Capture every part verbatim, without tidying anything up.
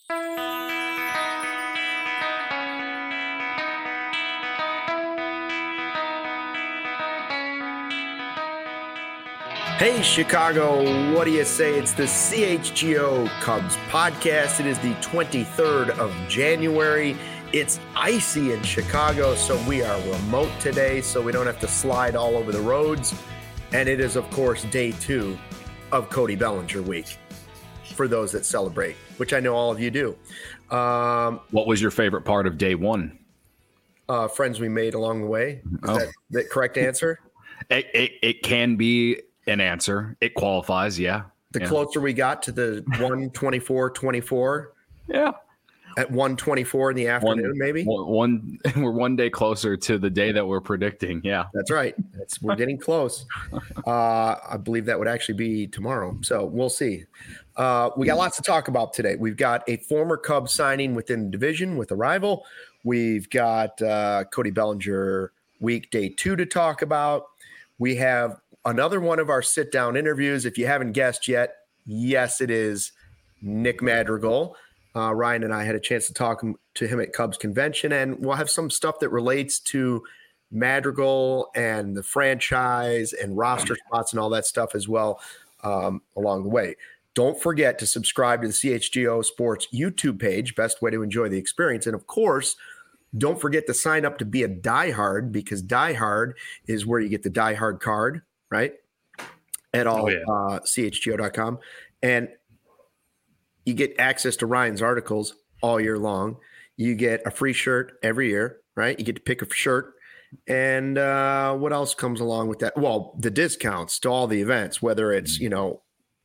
Hey, Chicago, what do you say? It's the C H G O Cubs podcast. It is the twenty-third of January. It's icy in Chicago, so we are remote today, so we don't have to slide all over the roads. And it is, of course, day two of Cody Bellinger week for those that celebrate, which I know all of you do. Um, what was your favorite part of day one? Uh, friends we made along the way. Is oh. that the correct answer? It, it, it can be an answer. It qualifies, yeah. The yeah. closer we got to the one twenty-four twenty-four. Yeah. At one twenty-four in the afternoon, one, maybe? One, we're one day closer to the day that we're predicting, yeah. That's right. That's, we're getting close. Uh, I believe that would actually be tomorrow, so we'll see. Uh, we got lots to talk about today. We've got a former Cubs signing within the division with a rival. We've got uh, Cody Bellinger week day two to talk about. We have another one of our sit-down interviews. If you haven't guessed yet, yes, it is Nick Madrigal. Uh, Ryan and I had a chance to talk to him at Cubs Convention, and we'll have some stuff that relates to Madrigal and the franchise and roster spots and all that stuff as well um, along the way. Don't forget to subscribe to the C H G O Sports YouTube page, best way to enjoy the experience. And, of course, don't forget to sign up to be a diehard, because diehard is where you get the diehard card, right, at all, oh, yeah. uh, C H G O dot com. And you get access to Ryan's articles all year long. You get a free shirt every year, right? You get to pick a shirt. And uh, what else comes along with that? Well, the discounts to all the events, whether it's, you know,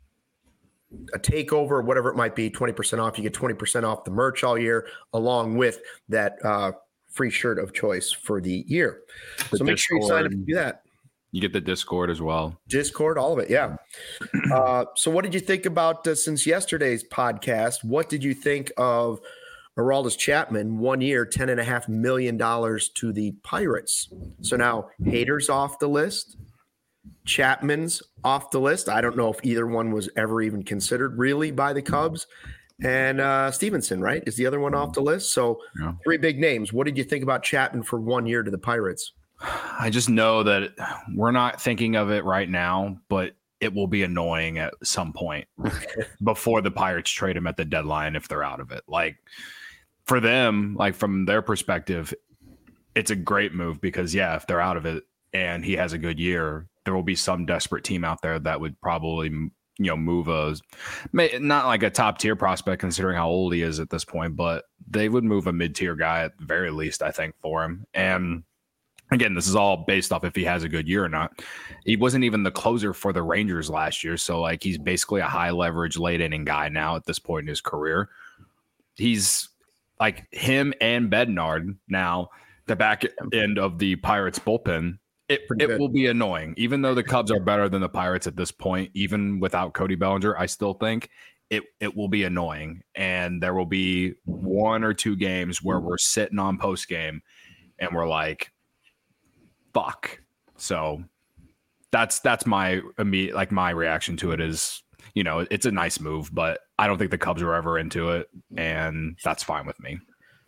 a takeover or whatever it might be, twenty percent off. You get twenty percent off the merch all year, along with that uh, free shirt of choice for the year. The so make Discord, sure you sign up to do that. You get the Discord as well. Discord, all of it, yeah. Uh, so what did you think about, uh, since yesterday's podcast, what did you think of Aroldis Chapman, one year, ten point five million dollars to the Pirates? So now Hader's off the list. Chapman's off the list. I don't know if either one was ever even considered really by the Cubs. And uh, Stevenson, right, is the other one off the list. So yeah. Three big names. What did you think about Chapman for one year to the Pirates? I just know that we're not thinking of it right now, but it will be annoying at some point before the Pirates trade him at the deadline if they're out of it. Like, for them, like from their perspective, it's a great move because, yeah, if they're out of it and he has a good year, there will be some desperate team out there that would probably, you know, move a, not like a top tier prospect considering how old he is at this point, but they would move a mid tier guy at the very least, I think, for him. And again, this is all based off if he has a good year or not. He wasn't even the closer for the Rangers last year. So, like, he's basically a high leverage late inning guy now at this point in his career. He's like him and Bednard now, the back end of the Pirates bullpen. It, it will be annoying. Even though the Cubs are better than the Pirates at this point, even without Cody Bellinger, I still think it, it will be annoying. And there will be one or two games where we're sitting on post game and we're like, fuck. So that's that's my immediate, like my reaction to it is, you know, it's a nice move, but I don't think the Cubs are ever into it, and that's fine with me.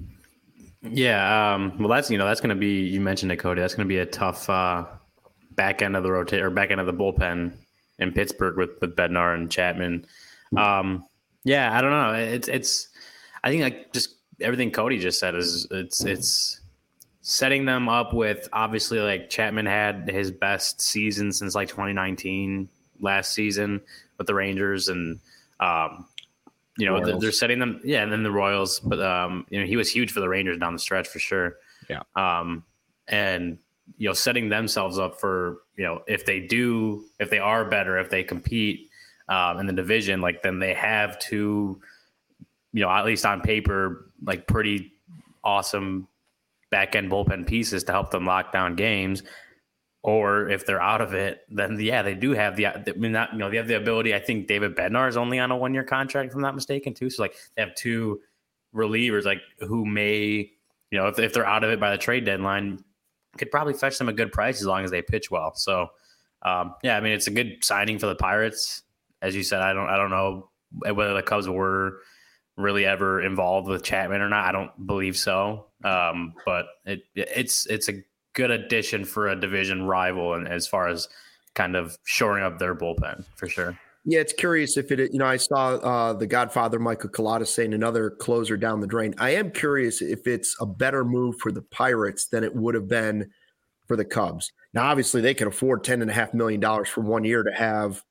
Yeah, um, well, that's you know that's going to be, you mentioned it, Cody. That's going to be a tough uh, back end of the rotate or back end of the bullpen in Pittsburgh with with Bednar and Chapman. Um, yeah, I don't know. It's it's I think like just everything Cody just said is it's it's. setting them up with, obviously, like Chapman had his best season since like twenty nineteen last season with the Rangers, and um, you know Royals. They're setting them, yeah, and then the Royals. But um, you know he was huge for the Rangers down the stretch for sure. Yeah, um, and you know setting themselves up for, you know if they do, if they are better, if they compete um, in the division, like then they have two, you know at least on paper, like pretty awesome back end bullpen pieces to help them lock down games. Or if they're out of it, then yeah, they do have the, I mean, not, you know, they have the ability. I think David Bednar is only on a one year contract, if I'm not mistaken, too. So like they have two relievers, like who may, you know, if, if they're out of it by the trade deadline, could probably fetch them a good price as long as they pitch well. So um, yeah, I mean, it's a good signing for the Pirates. As you said, I don't, I don't know whether the Cubs were really ever involved with Chapman or not. I don't believe so. Um, but it it's it's a good addition for a division rival, and as far as kind of shoring up their bullpen for sure. Yeah, it's curious if it, you know, I saw uh, the Godfather, Michael Collada, saying another closer down the drain. I am curious if it's a better move for the Pirates than it would have been for the Cubs. Now, obviously, they can afford ten point five million dollars for one year to have,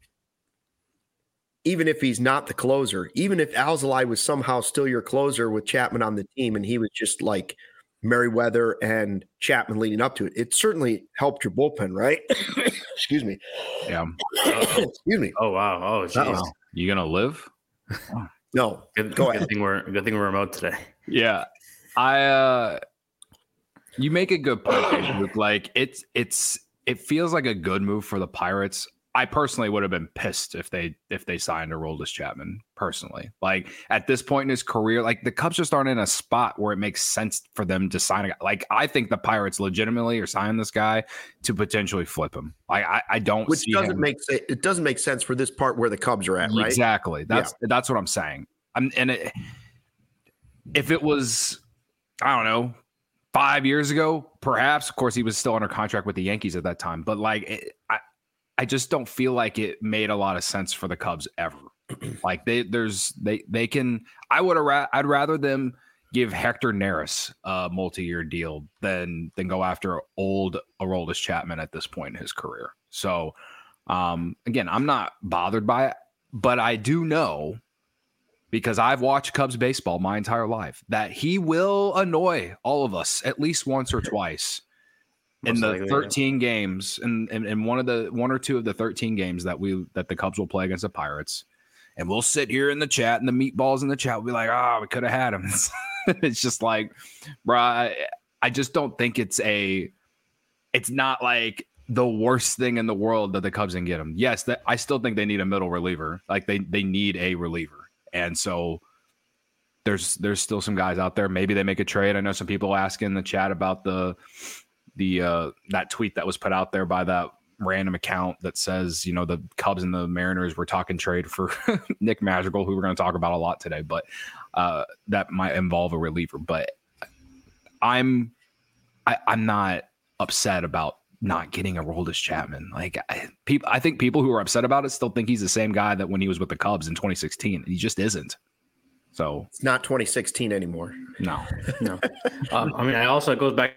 even if he's not the closer, even if Alzolay was somehow still your closer with Chapman on the team and he was just like Merriweather and Chapman leading up to it, it certainly helped your bullpen, right? Excuse me. Yeah. Excuse me. Oh wow. Oh jeez. You gonna live? No. Good, Go good ahead. thing we're good thing we're remote today. Yeah. I uh you make a good point, Luke. Like it's it's it feels like a good move for the Pirates. I personally would have been pissed if they if they signed Aroldis Chapman personally. Like at this point in his career, like the Cubs just aren't in a spot where it makes sense for them to sign a guy. Like I think the Pirates legitimately are signing this guy to potentially flip him. Like I, I don't Which see doesn't him. make sense. It doesn't make sense for this part where the Cubs are at, right? Exactly. That's yeah. that's what I'm saying. I'm, and it, if it was, I don't know, five years ago, perhaps. Of course, he was still under contract with the Yankees at that time. But like, it, I, I just don't feel like it made a lot of sense for the Cubs ever. Like they, there's they, they can. I would have. Ra- I'd rather them give Hector Neris a multi-year deal than than go after old Aroldis Chapman at this point in his career. So, um, again, I'm not bothered by it, but I do know, because I've watched Cubs baseball my entire life, that he will annoy all of us at least once or twice. In the thirteen games, and in, in, in one of the one or two of the thirteen games that we that the Cubs will play against the Pirates, and we'll sit here in the chat and the meatballs in the chat will be like, oh, we could have had him. It's just like, bro, I, I just don't think it's a, it's not like the worst thing in the world that the Cubs can get him. Yes, that I still think they need a middle reliever. Like they they need a reliever, and so there's there's still some guys out there. Maybe they make a trade. I know some people asking in the chat about the. the uh, that tweet that was put out there by that random account that says, you know, the Cubs and the Mariners were talking trade for Nick Madrigal, who we're going to talk about a lot today, but uh, that might involve a reliever. But I'm I, I'm not upset about not getting a Aroldis Chapman. Like I, people, I think people who are upset about it still think he's the same guy that when he was with the Cubs in twenty sixteen. He just isn't. So it's not twenty sixteen anymore. No, no. um, I mean, I also it goes back.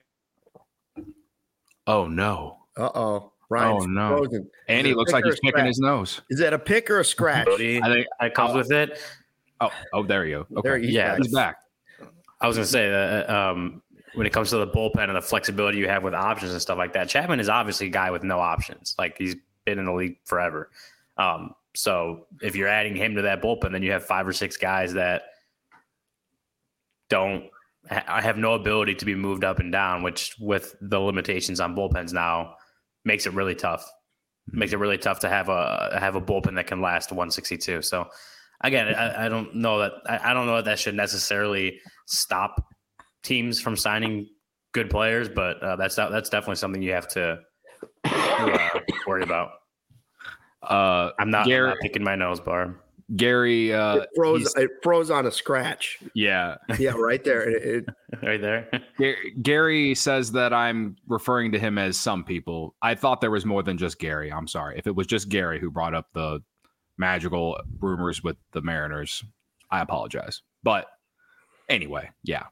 Oh no! Uh oh! Ryan's oh no! frozen. And he looks like he's picking his nose. Is that a pick or a scratch? I think it comes with it. Oh, oh, there you go. Okay, there he's yeah, back. he's back. I was going to say that um, when it comes to the bullpen and the flexibility you have with options and stuff like that, Chapman is obviously a guy with no options. Like he's been in the league forever. Um, so if you're adding him to that bullpen, then you have five or six guys that don't. I have no ability to be moved up and down, which with the limitations on bullpens now makes it really tough. Makes it really tough to have a have a bullpen that can last one sixty-two. So again, I, I don't know that I, I don't know that that should necessarily stop teams from signing good players, but uh, that's that's definitely something you have to, to uh, worry about. Uh, I'm not, Gary, I'm not picking my nose, Barb. Gary, uh, it froze. It froze on a scratch. Yeah, yeah, right there. It, it, right there. Gary says that I'm referring to him as some people. I thought there was more than just Gary. I'm sorry. If it was just Gary who brought up the Madrigal rumors with the Mariners, I apologize. But anyway, yeah.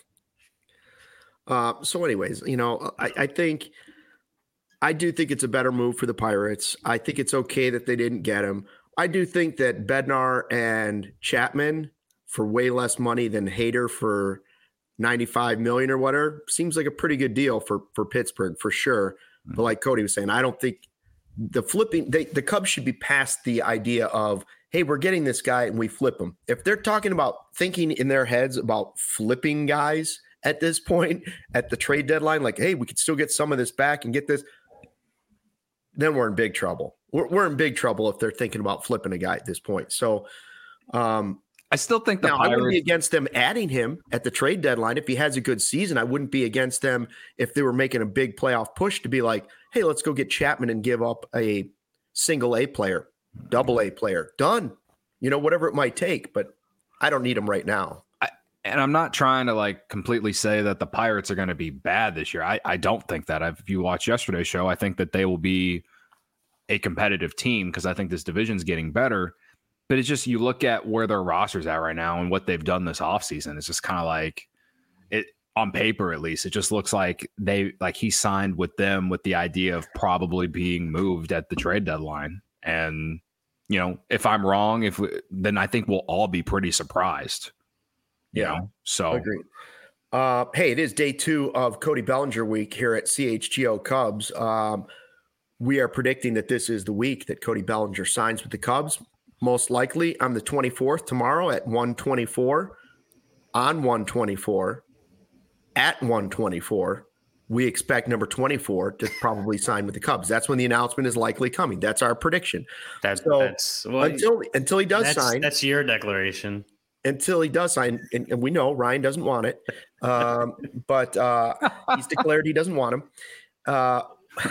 Uh, so, anyways, you know, I, I think I do think it's a better move for the Pirates. I think it's okay that they didn't get him. I do think that Bednar and Chapman for way less money than Hader for ninety-five million dollars or whatever seems like a pretty good deal for, for Pittsburgh for sure. Mm-hmm. But like Cody was saying, I don't think the flipping they, the Cubs should be past the idea of, hey, we're getting this guy and we flip him. If they're talking about thinking in their heads about flipping guys at this point at the trade deadline, like, hey, we could still get some of this back and get this, then we're in big trouble. We're, we're in big trouble if they're thinking about flipping a guy at this point. So um, I still think the now, Pirates... I wouldn't be against them adding him at the trade deadline. If he has a good season, I wouldn't be against them if they were making a big playoff push to be like, hey, let's go get Chapman and give up a single A player, double A player. Done. You know, whatever it might take. But I don't need him right now. I, and I'm not trying to like completely say that the Pirates are going to be bad this year. I, I don't think that. I've, if you watch yesterday's show, I think that they will be a competitive team because I think this division's getting better. But it's just, you look at where their roster's at right now and what they've done this offseason. It's just kind of like it on paper, at least. It just looks like they like he signed with them with the idea of probably being moved at the trade deadline. And, you know, if I'm wrong, if we, then I think we'll all be pretty surprised. You Yeah. know, so Agreed. Uh, hey, it is day two of Cody Bellinger week here at C H G O Cubs. Um, we are predicting that this is the week that Cody Bellinger signs with the Cubs. Most likely on the twenty-fourth, tomorrow at one twenty-four, on one twenty-four, at one twenty-four. We expect number twenty-four to probably sign with the Cubs. That's when the announcement is likely coming. That's our prediction. That's, so that's well, until until he does that's, sign. That's your declaration. Until he does sign, and, and we know Ryan doesn't want it, um, but uh, he's declared he doesn't want him. Uh,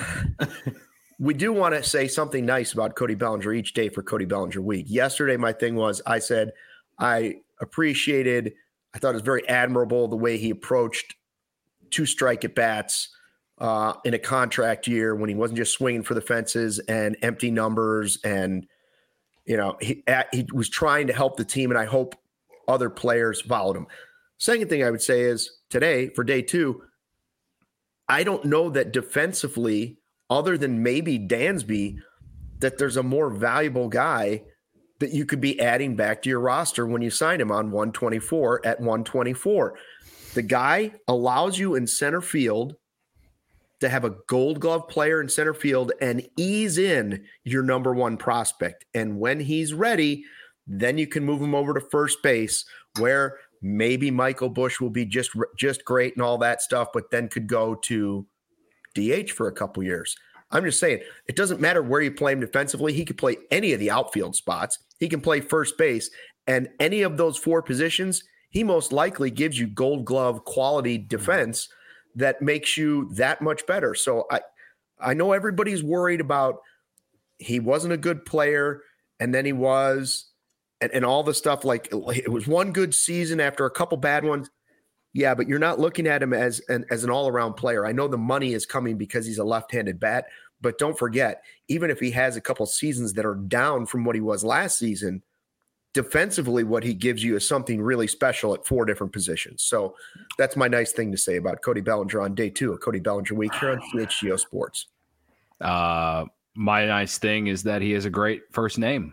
we do want to say something nice about Cody Bellinger each day for Cody Bellinger week. Yesterday, my thing was I said I appreciated, I thought it was very admirable the way he approached two strike at bats uh, in a contract year when he wasn't just swinging for the fences and empty numbers. And, you know, he, he was trying to help the team, and I hope other players followed him. Second thing I would say is today for day two, I don't know that defensively, other than maybe Dansby, that there's a more valuable guy that you could be adding back to your roster when you sign him on one twenty-four at one twenty-four. The guy allows you in center field to have a Gold Glove player in center field and ease in your number one prospect. And when he's ready, then you can move him over to first base, where maybe Michael Busch will be just just great and all that stuff, but then could go to D H for a couple years. I'm just saying, it doesn't matter where you play him defensively. He could play any of the outfield spots. He can play first base, and any of those four positions, he most likely gives you Gold Glove quality defense that makes you that much better. So I, I know everybody's worried about he wasn't a good player, and then he was, and, and all the stuff, like it was one good season after a couple bad ones. Yeah, but you're not looking at him as an, as an all-around player. I know the money is coming because he's a left-handed bat, but don't forget, even if he has a couple seasons that are down from what he was last season, defensively what he gives you is something really special at four different positions. So that's my nice thing to say about Cody Bellinger on day two of Cody Bellinger week here on C H G O Sports. Uh, my nice thing is that he has a great first name.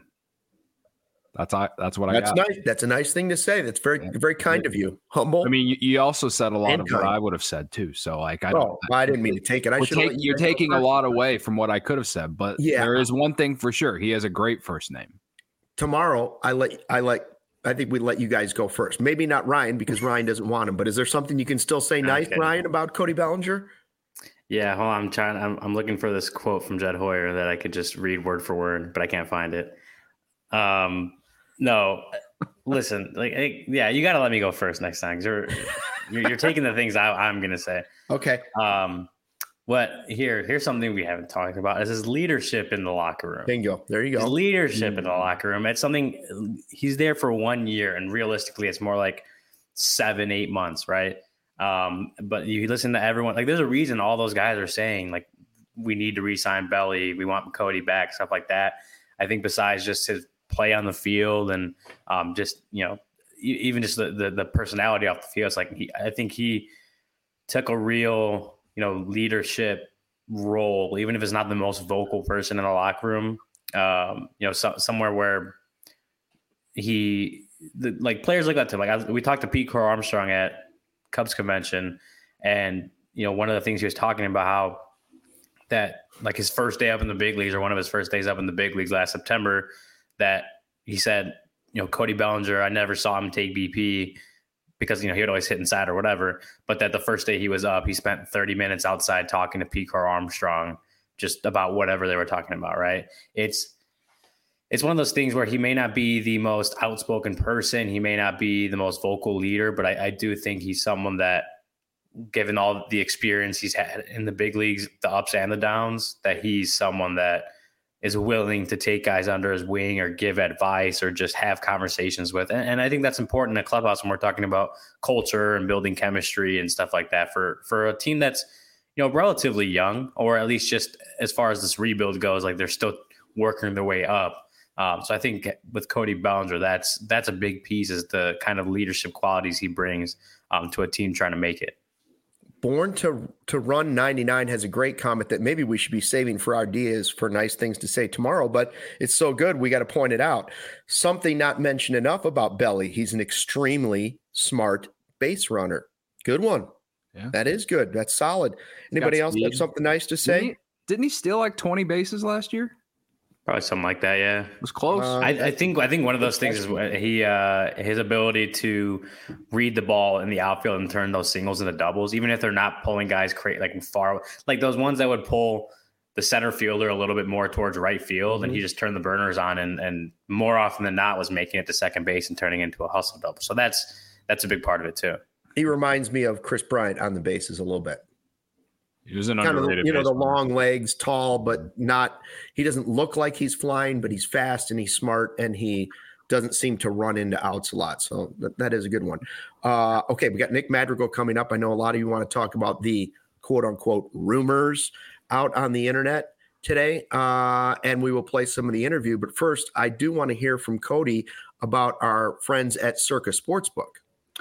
That's I. That's what That's I got. nice. That's a nice thing to say. That's very, very kind of you. Humble. I mean, you, you also said a lot And of what kind. I would have said too. So, like, I, oh, I didn't mean to take it. I We're should. take, you're taking a lot away from what I could have said, but Yeah. there is one thing for sure: he has a great first name. Tomorrow, I let I let. I think we let you guys go first. Maybe not Ryan because Ryan doesn't want him. But is there something you can still say nice, Okay. Ryan, about Cody Bellinger? Yeah, hold on, I'm trying. I'm, I'm looking for this quote from Jed Hoyer that I could just read word for word, but I can't find it. Um, no, listen, like, hey, yeah, you got to let me go first next time. 'Cause you're, you're you're taking the things I, I'm gonna say. Okay. Um, what here? Here's something we haven't talked about. Is his leadership in the locker room. Bingo. There you His go. leadership in the locker room. It's something. He's there for one year, and realistically, it's more like seven, eight months, right? Um, but you listen to everyone. Like, there's a reason all those guys are saying, like, we need to re-sign Belly. We want Cody back, stuff like that. I think besides just his play on the field and um, just, you know, even just the, the the personality off the field, it's like he, I think he took a real, you know, leadership role, even if it's not the most vocal person in the locker room. Um, you know, so, somewhere where he, the, like players look up to him. Like I, we talked to Pete Crow Armstrong at Cubs convention, and you know, one of the things he was talking about how that like his first day up in the big leagues, or one of his first days up in the big leagues last September, that he said, you know, Cody Bellinger, I never saw him take B P because, you know, he would always hit inside or whatever. But that the first day he was up, he spent thirty minutes outside talking to Pete Crow Armstrong just about whatever they were talking about. Right. It's, it's one of those things where he may not be the most outspoken person. He may not be the most vocal leader, but I, I do think he's someone that, given all the experience he's had in the big leagues, the ups and the downs, that he's someone that is willing to take guys under his wing or give advice or just have conversations with. And, and I think that's important in a clubhouse when we're talking about culture and building chemistry and stuff like that for, for a team that's, you know, relatively young, or at least just as far as this rebuild goes, like they're still working their way up. Um, so I think with Cody Bellinger, that's, that's a big piece, is the kind of leadership qualities he brings um, to a team trying to make it. Born to to Run ninety-nine has a great comment that maybe we should be saving for ideas for nice things to say tomorrow, but it's so good we got to point it out. Something not mentioned enough about Belly. He's an extremely smart base runner. Good one. Yeah. That is good. That's solid. Anybody else have something nice to say? Didn't he, didn't he steal like twenty bases last year? Probably something like that. Yeah, it was close. Uh, I, I think I think one of those things is he uh, his ability to read the ball in the outfield and turn those singles into doubles, even if they're not pulling guys cra- like far, like those ones that would pull the center fielder a little bit more towards right field, mm-hmm. and he just turned the burners on, and and more often than not was making it to second base and turning into a hustle double. So that's that's a big part of it too. He reminds me of Chris Bryant on the bases a little bit. He was an kind underrated of, you know, the baseball. long legs, tall, but not, he doesn't look like he's flying, but he's fast and he's smart, and he doesn't seem to run into outs a lot. So that, that is a good one. Uh, okay, we got Nick Madrigal coming up. I know a lot of you want to talk about the quote unquote rumors out on the internet today, uh, and we will play some of the interview. But first, I do want to hear from Cody about our friends at Circa Sportsbook.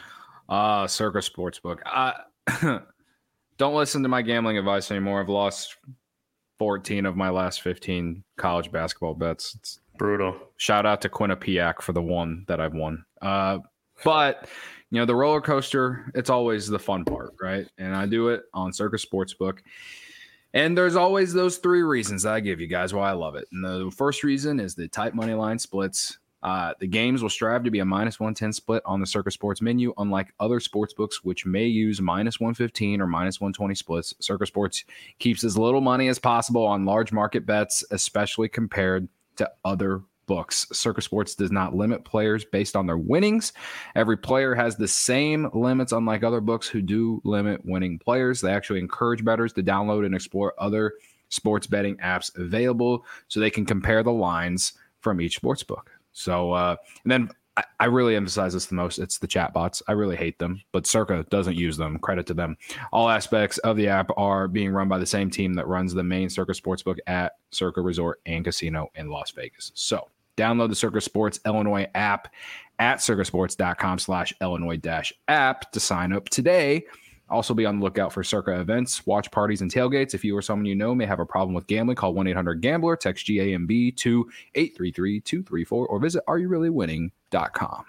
Uh, Circa Sportsbook. Uh, Don't listen to my gambling advice anymore. I've lost fourteen of my last fifteen college basketball bets. It's brutal. Shout out to Quinnipiac for the one that I've won. Uh, but, you know, the roller coaster, it's always the fun part, right? And I do it on Circa Sportsbook. And there's always those three reasons that I give you guys why I love it. And the first reason is the tight money line splits. Uh, the games will strive to be a minus one ten split on the Circa Sports menu, unlike other sports books, which may use minus one fifteen or minus one twenty splits. Circa Sports keeps as little money as possible on large market bets, especially compared to other books. Circa Sports does not limit players based on their winnings. Every player has the same limits, unlike other books who do limit winning players. They actually encourage bettors to download and explore other sports betting apps available so they can compare the lines from each sports book. So, uh, and then I, I really emphasize this the most. It's the chat bots. I really hate them, but Circa doesn't use them. Credit to them. All aspects of the app are being run by the same team that runs the main Circa Sportsbook at Circa Resort and Casino in Las Vegas. So download the Circa Sports Illinois app at circasports.com slash Illinois dash app to sign up today. Also be on the lookout for Circa events, watch parties, and tailgates. If you or someone you know may have a problem with gambling, call one eight hundred gambler, text G A M B to eight three three two three four, or visit are you really winning dot com.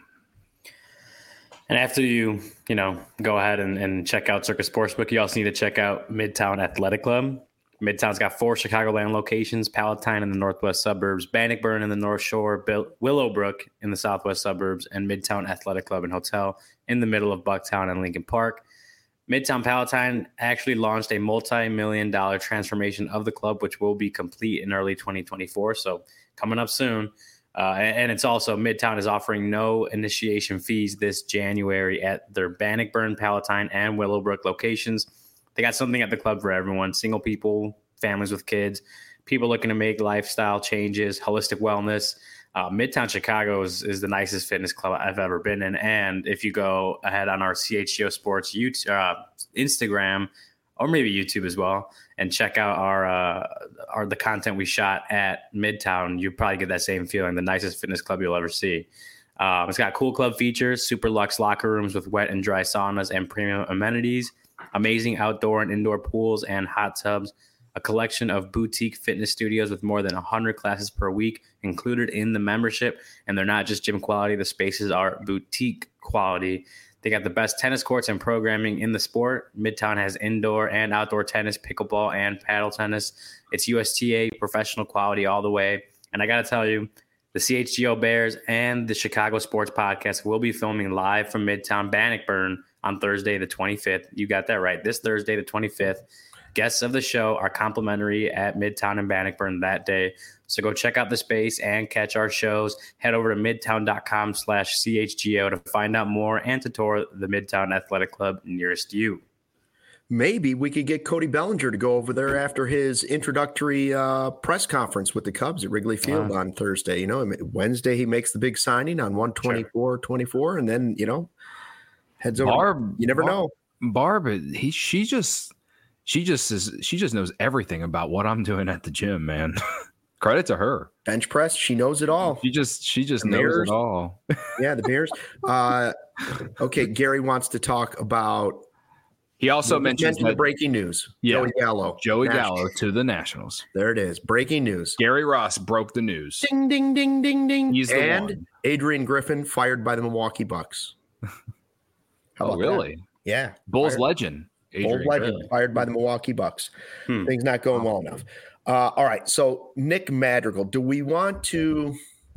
And after you, you know, go ahead and, and check out Circa Sportsbook, you also need to check out Midtown Athletic Club. Midtown's got four Chicagoland locations: Palatine in the northwest suburbs, Bannockburn in the North Shore, Bill- Willowbrook in the southwest suburbs, and Midtown Athletic Club and Hotel in the middle of Bucktown and Lincoln Park. Midtown Palatine actually launched a multi-million dollar transformation of the club, which will be complete in early twenty twenty-four. So coming up soon. Uh, and it's also, Midtown is offering no initiation fees this January at their Bannockburn, Palatine, and Willowbrook locations. They got something at the club for everyone: single people, families with kids, people looking to make lifestyle changes, holistic wellness. Uh, Midtown Chicago is, is the nicest fitness club I've ever been in. And if you go ahead on our C H G O Sports YouTube, uh, Instagram, or maybe YouTube as well, and check out our, uh, our the content we shot at Midtown, you probably get that same feeling, the nicest fitness club you'll ever see. Um, it's got cool club features, super luxe locker rooms with wet and dry saunas and premium amenities, amazing outdoor and indoor pools and hot tubs, a collection of boutique fitness studios with more than one hundred classes per week included in the membership. And they're not just gym quality. The spaces are boutique quality. They got the best tennis courts and programming in the sport. Midtown has indoor and outdoor tennis, pickleball, and paddle tennis. It's U S T A professional quality all the way. And I got to tell you, the C H G O Bears and the Chicago Sports Podcast will be filming live from Midtown Bannockburn on Thursday, the twenty-fifth. You got that right. This Thursday, the twenty-fifth. Guests of the show are complimentary at Midtown and Bannockburn that day. So go check out the space and catch our shows. Head over to midtown.com slash CHGO to find out more and to tour the Midtown Athletic Club nearest you. maybe we could get Cody Bellinger to go over there after his introductory uh, press conference with the Cubs at Wrigley Field wow. on Thursday. You know, Wednesday he makes the big signing on one twenty-four twenty-four, and then, you know, heads over. Barb, you never Barb, know. Barb, he she just she just is she just knows everything about what I'm doing at the gym, man. Credit to her. Bench press, she knows it all. She just she just the knows Bears. it all. Yeah, the Bears. Uh, okay, Gary wants to talk about. He also mentioned, mentioned the breaking news. Yeah, Joey Gallo. Joey Nationals. Gallo to the Nationals. There it is. Breaking news. Gary Ross broke the news. Ding, ding, ding, ding, ding. He's the and one. Adrian Griffin fired by the Milwaukee Bucks. How oh, really? That? Yeah. Bulls fired. legend. Adrian Bulls legend Griffin. fired by the Milwaukee Bucks. Hmm. Things not going well enough. Uh, all right. So Nick Madrigal, do we want to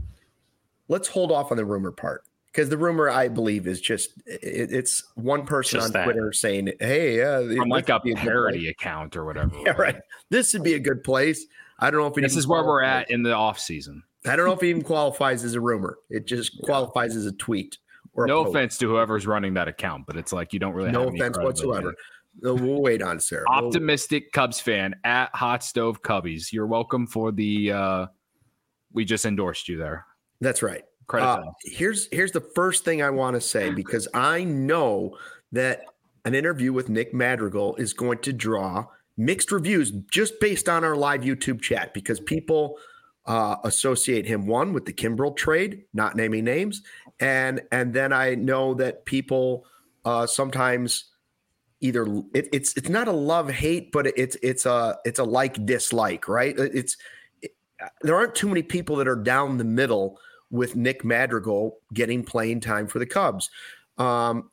– let's hold off on the rumor part. Because the rumor, I believe, is just it, it's one person just on that. Twitter saying, hey, uh, from like a parody account or whatever. Yeah, right. This would be a good place. I don't know if it this even is where we're qualifies. at in the off season. I don't know if it even qualifies as a rumor. It just qualifies as a tweet. Or no a post. offense to whoever's running that account, but it's like you don't really no have any offense whatsoever. credibility. We'll wait on Sarah. Optimistic Cubs fan at Hot Stove Cubbies. You're welcome for the. Uh, we just endorsed you there. That's right. Credit Uh, to us. here's here's the first thing I want to say, because I know that an interview with Nick Madrigal is going to draw mixed reviews just based on our live YouTube chat, because people uh, associate him, one, with the Kimbrel trade, not naming names, and and then I know that people uh, sometimes either it, it's it's not a love hate, but it's it's a it's a like dislike, right? It's it, there aren't too many people that are down the middle with Nick Madrigal getting playing time for the Cubs. Um,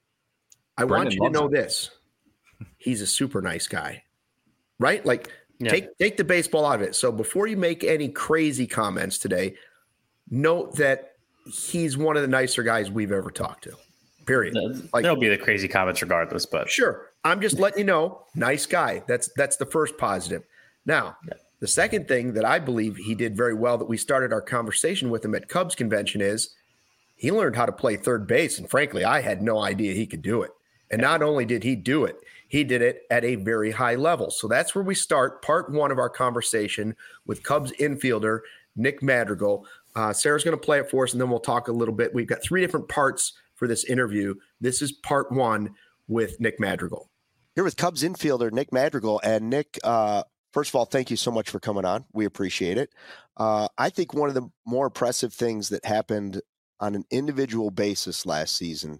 I Brendan want you to know it. this. He's a super nice guy, right? Like Yeah. take, take the baseball out of it. So before you make any crazy comments today, note that he's one of the nicer guys we've ever talked to, period. Like, There'll be the crazy comments regardless, but sure. I'm just letting you know, nice guy. That's, that's the first positive. Now, Yeah. the second thing that I believe he did very well that we started our conversation with him at Cubs convention is he learned how to play third base. And frankly, I had no idea he could do it. And not only did he do it, he did it at a very high level. So that's where we start part one of our conversation with Cubs infielder Nick Madrigal. Uh, Sarah's going to play it for us, and then we'll talk a little bit. We've got three different parts for this interview. This is part one with Nick Madrigal. Here with Cubs infielder Nick Madrigal. And Nick, uh, first of all, thank you so much for coming on. We appreciate it. Uh, I think one of the more impressive things that happened on an individual basis last season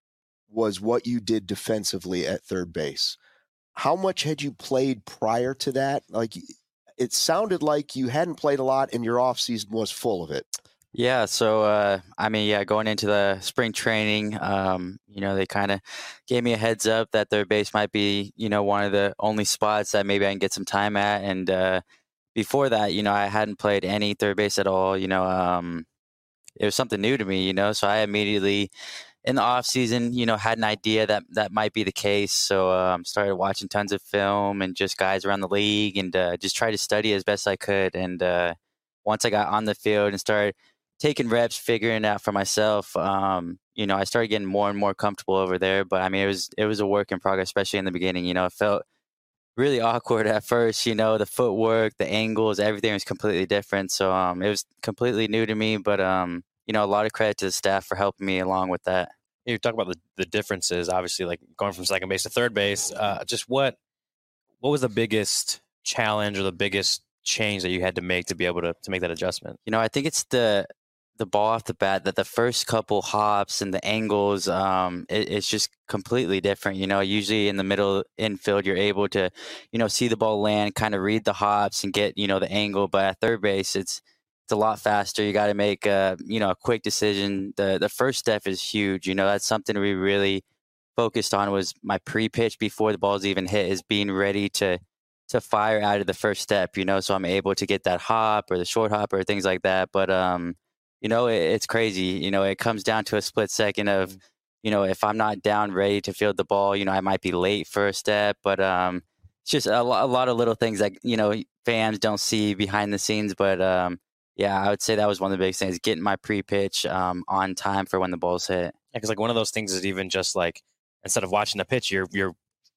was what you did defensively at third base. How much had you played prior to that? Like, it sounded like you hadn't played a lot and your offseason was full of it. Yeah, so uh, I mean, yeah, going into the spring training, um, you know, they kind of gave me a heads up that third base might be, you know, one of the only spots that maybe I can get some time at. And uh, before that, you know, I hadn't played any third base at all. You know, um, it was something new to me, you know, so I immediately in the off season, you know, had an idea that that might be the case. So um, started watching tons of film and just guys around the league, and uh, just tried to study as best I could. And uh, once I got on the field and started taking reps, figuring it out for myself, um, you know, I started getting more and more comfortable over there. But I mean, it was it was a work in progress, especially in the beginning. You know, it felt really awkward at first. You know, the footwork, the angles, everything was completely different. So um, it was completely new to me. But um, you know, a lot of credit to the staff for helping me along with that. You talk about the, the differences, obviously, like going from second base to third base. Uh, just what what was the biggest challenge or the biggest change that you had to make to be able to to make that adjustment? You know, I think it's the the ball off the bat, that the first couple hops and the angles, um, it, it's just completely different. You know, usually in the middle infield, you're able to, you know, see the ball land, kind of read the hops and get, you know, the angle. But at third base, it's it's a lot faster. You got to make a, you know, a quick decision. The the first step is huge. You know, that's something we really focused on, was my pre-pitch before the ball's even hit, is being ready to to fire out of the first step, you know, so I'm able to get that hop or the short hop or things like that. But, um, you know, it, it's crazy. You know, it comes down to a split second of, you know, if I'm not down ready to field the ball, you know, I might be late for a step. But um, it's just a, lo- a lot of little things that, you know, fans don't see behind the scenes. But, um, yeah, I would say that was one of the biggest things, getting my pre-pitch um, on time for when the ball's hit. Because like one of those things is even just like, instead of watching the pitch, you're you're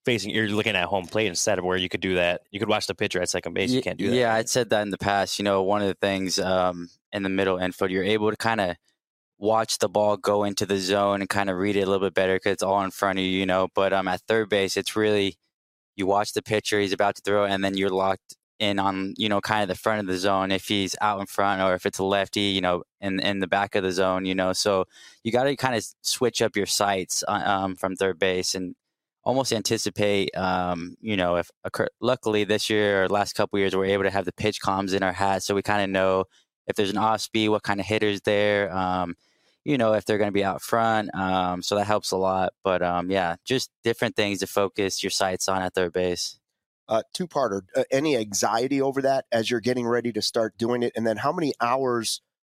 facing, you're looking at home plate instead of where you could do that. You could watch the pitcher at second base. You can't do that. Yeah, I'd said that in the past. You know, one of the things um, in the middle infield, you're able to kind of watch the ball go into the zone and kind of read it a little bit better because it's all in front of you, you know. But um, at third base, it's really, you watch the pitcher, he's about to throw, and then you're locked in on, you know, kind of the front of the zone if he's out in front or if it's a lefty, you know, in, in the back of the zone, you know. So you got to kind of switch up your sights um, from third base and almost anticipate, um, you know, if occur- luckily this year or last couple of years, we're able to have the pitch comms in our hat. So we kind of know if there's an off speed, what kind of hitter's there, um, you know, if they're going to be out front. Um, so that helps a lot. But um, yeah, just different things to focus your sights on at third base. Uh, two-parter, uh, any anxiety over that as you're getting ready to start doing it? And then how many hours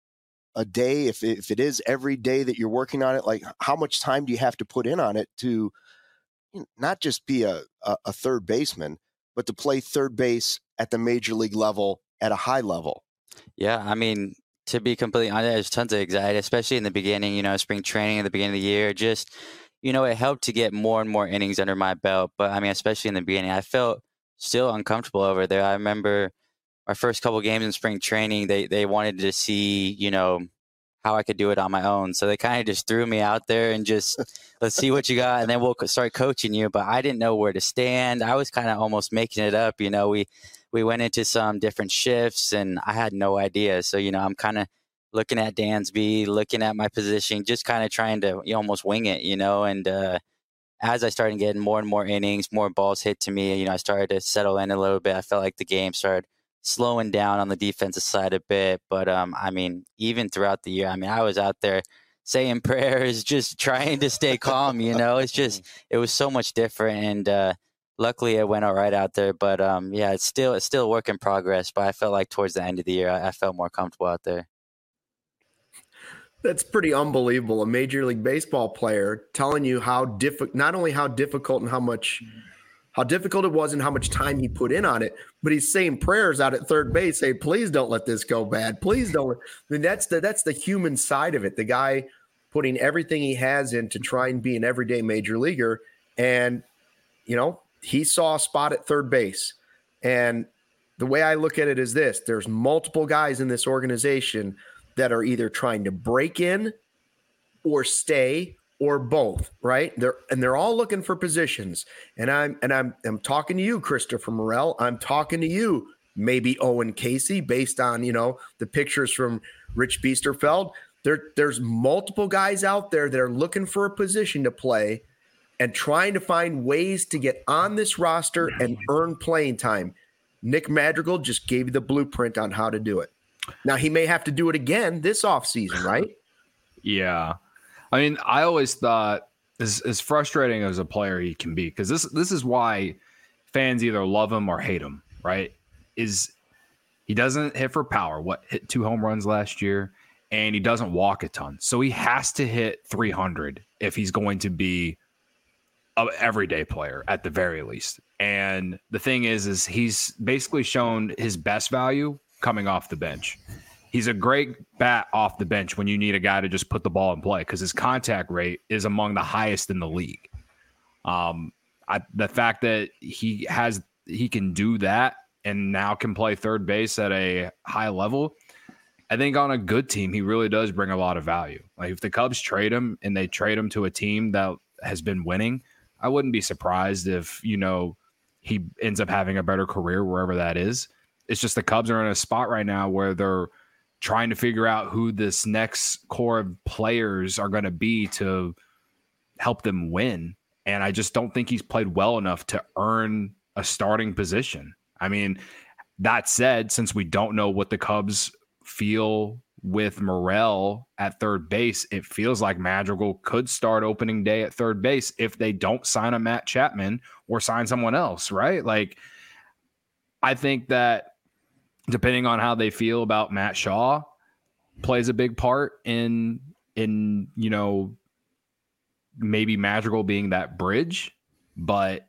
a day, if, if it is every day that you're working on it, like how much time do you have to put in on it to you know, not just be a, a, a third baseman, but to play third base at the major league level at a high level? Yeah, I mean, to be completely honest, there's tons of anxiety, especially in the beginning, you know, spring training at the beginning of the year. Just, you know, it helped to get more and more innings under my belt. But I mean, especially in the beginning, I felt still uncomfortable over there. I remember our first couple games in spring training, they, they wanted to see, you know, how I could do it on my own. So they kind of just threw me out there and just, let's see what you got. And then we'll start coaching you. But I didn't know where to stand. I was kind of almost making it up. You know, we, we went into some different shifts and I had no idea. So, you know, I'm kind of looking at Dansby, looking at my position, just kind of trying to you know, almost wing it, you know, and, uh, as I started getting more and more innings, more balls hit to me, you know, I started to settle in a little bit. I felt like the game started slowing down on the defensive side a bit. But, um, I mean, even throughout the year, I mean, I was out there saying prayers, just trying to stay calm, you know. It's just, it was so much different. And uh, luckily it went all right out there. But, um, yeah, it's still it's still a work in progress. But I felt like towards the end of the year, I, I felt more comfortable out there. That's pretty unbelievable. A Major League Baseball player telling you how difficult, not only how difficult and how much, how difficult it was and how much time he put in on it, but he's saying prayers out at third base, say, please don't let this go bad. Please don't. I mean, that's the, that's the human side of it. The guy putting everything he has in to try and be an everyday major leaguer. And, you know, he saw a spot at third base. And the way I look at it is this, there's multiple guys in this organization that are either trying to break in or stay or both, right? They're and they're all looking for positions. And I'm and I'm I'm talking to you, Christopher Morel. I'm talking to you, maybe Owen Casey, based on, you know, the pictures from Rich Biesterfeld. There, there's multiple guys out there that are looking for a position to play and trying to find ways to get on this roster and earn playing time. Nick Madrigal just gave you the blueprint on how to do it. Now, he may have to do it again this offseason, right? Yeah. I mean, I always thought as, as frustrating as a player he can be, because this this is why fans either love him or hate him, right? Is he doesn't hit for power. What, hit two home runs last year, and he doesn't walk a ton. So he has to hit three hundred if he's going to be an everyday player at the very least. And the thing is, is he's basically shown his best value coming off the bench. He's a great bat off the bench when you need a guy to just put the ball in play because his contact rate is among the highest in the league. Um, I, the fact that he has he can do that and now can play third base at a high level, I think on a good team he really does bring a lot of value. Like if the Cubs trade him and they trade him to a team that has been winning, I wouldn't be surprised if you know he ends up having a better career wherever that is. It's just the Cubs are in a spot right now where they're trying to figure out who this next core of players are going to be to help them win. And I just don't think he's played well enough to earn a starting position. I mean, that said, since we don't know what the Cubs feel with Morel at third base, it feels like Madrigal could start opening day at third base if they don't sign a Matt Chapman or sign someone else, right? Like, I think that depending on how they feel about Matt Shaw plays a big part in, in, you know, maybe Madrigal being that bridge, but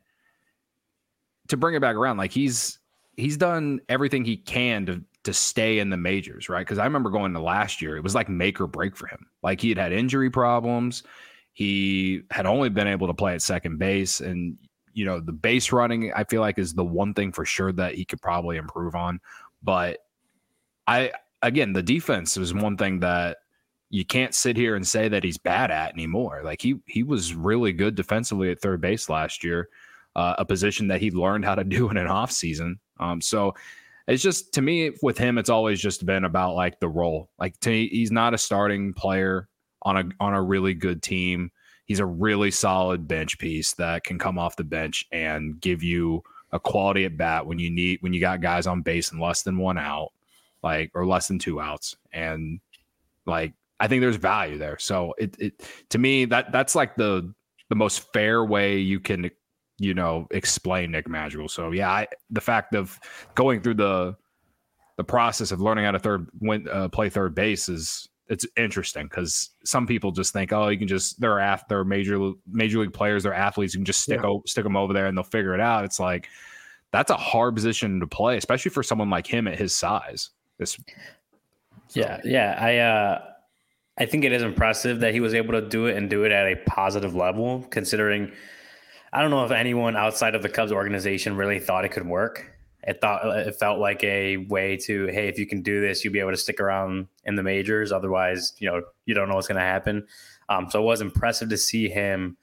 to bring it back around, like he's, he's done everything he can to, to stay in the majors, right? Because I remember going to last year, it was like make or break for him. Like he had had injury problems. He had only been able to play at second base. And you know, the base running, I feel like, is the one thing for sure that he could probably improve on. But I, again, the defense is one thing that you can't sit here and say that he's bad at anymore. Like he, he was really good defensively at third base last year, uh, a position that he learned how to do in an off season. Um, so it's just, to me, with him, it's always just been about like the role. Like to me, he's not a starting player on a, on a really good team. He's a really solid bench piece that can come off the bench and give you a quality at bat when you need, when you got guys on base and less than one out, like, or less than two outs. And like, I think there's value there. So it, it to me, that that's like the the most fair way you can, you know, explain Nick Madrigal. So yeah, I, the fact of going through the the process of learning how to third win, uh, play third base is, it's interesting because some people just think, oh, you can just they're af- they're major major league players, they're athletes, you can just stick Yeah. o- stick them over there and they'll figure it out. It's like that's a hard position to play, especially for someone like him at his size. This, So. Yeah, yeah. I uh, I think it is impressive that he was able to do it and do it at a positive level, considering I don't know if anyone outside of the Cubs organization really thought it could work. It thought it felt like a way to, hey, if you can do this, you'll be able to stick around in the majors. Otherwise, you know, you don't know what's going to happen. Um, so it was impressive to see him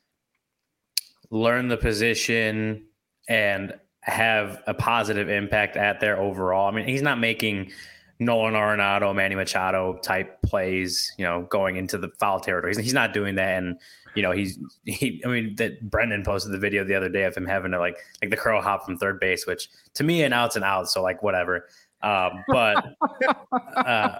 learn the position and have a positive impact at there overall. I mean, he's not making Nolan Arenado, Manny Machado type plays, you know, going into the foul territory. He's, he's not doing that. And, you know, he's, he, I mean, that Brendan posted the video the other day of him having to like, like the curl hop from third base, which to me, an out's an out. So like, whatever. Um, but uh,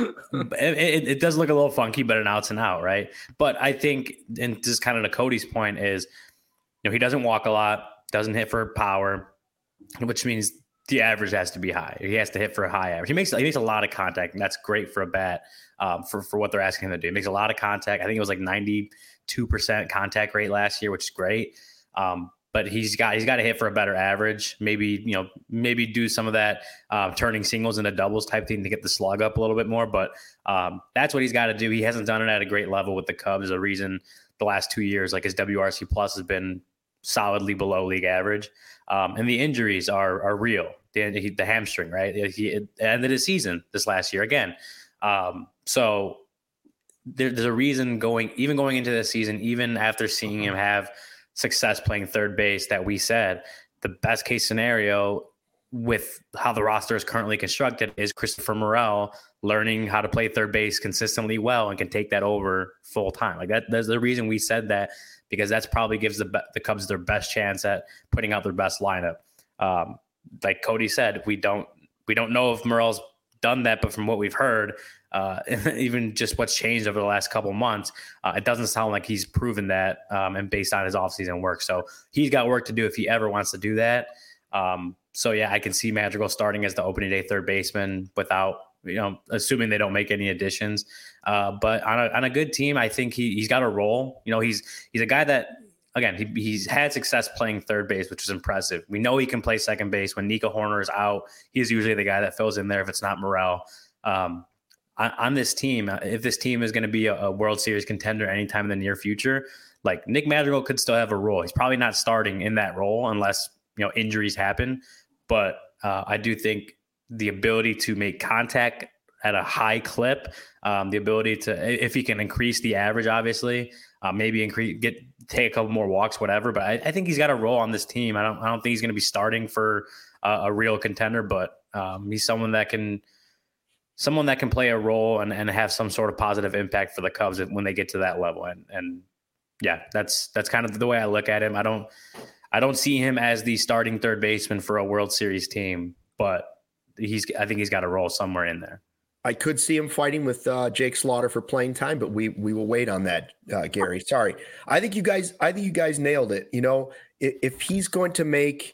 it, it, it does look a little funky, but an out's an out. Right. But I think, and just kind of to Cody's point is, you know, he doesn't walk a lot, doesn't hit for power, which means the average has to be high. He has to hit for a high average. He makes he makes a lot of contact, and that's great for a bat um, for for what they're asking him to do. He makes a lot of contact. I think it was like ninety-two percent contact rate last year, which is great. Um, but he's got he's got to hit for a better average. Maybe you know maybe do some of that uh, turning singles into doubles type thing to get the slug up a little bit more. But um, that's what he's got to do. He hasn't done it at a great level with the Cubs. There's a reason the last two years, like his W R C plus has been solidly below league average. Um, and the injuries are are real. The, the hamstring, right? He ended his season this last year again. Um, so there, there's a reason going, even going into this season, even after seeing him have success playing third base, that we said the best case scenario with how the roster is currently constructed is Christopher Morel learning how to play third base consistently well and can take that over full time. Like that, that's the reason we said that, because that's probably gives the the Cubs their best chance at putting out their best lineup. Um, like Cody said, we don't we don't know if Morel's done that, but from what we've heard, uh, even just what's changed over the last couple months, uh, it doesn't sound like he's proven that, um, and based on his offseason work. So he's got work to do if he ever wants to do that. Um, so yeah, I can see Madrigal starting as the opening day third baseman without, you know, assuming they don't make any additions. Uh, but on a on a good team, I think he he's got a role. You know, he's he's a guy that, again, he, he's had success playing third base, which is impressive. We know he can play second base. When Nico Horner is out, he's usually the guy that fills in there if it's not Morel. Um, on, on this team, if this team is going to be a, a World Series contender anytime in the near future, like Nick Madrigal could still have a role. He's probably not starting in that role unless, you know, injuries happen. But uh, I do think the ability to make contact at a high clip, um, the ability to, if he can increase the average, obviously, uh, maybe increase, get, take a couple more walks, whatever. But I, I think he's got a role on this team. I don't, I don't think he's going to be starting for uh, a real contender, but um, he's someone that can, someone that can play a role and, and have some sort of positive impact for the Cubs when they get to that level. And, and yeah, that's, that's kind of the way I look at him. I don't, I don't see him as the starting third baseman for a World Series team, but he's, I think he's got a role somewhere in there. I could see him fighting with uh, Jake Slaughter for playing time, but we we will wait on that, uh, Gary. Sorry. I think you guys I think you guys nailed it. You know, if, if he's going to make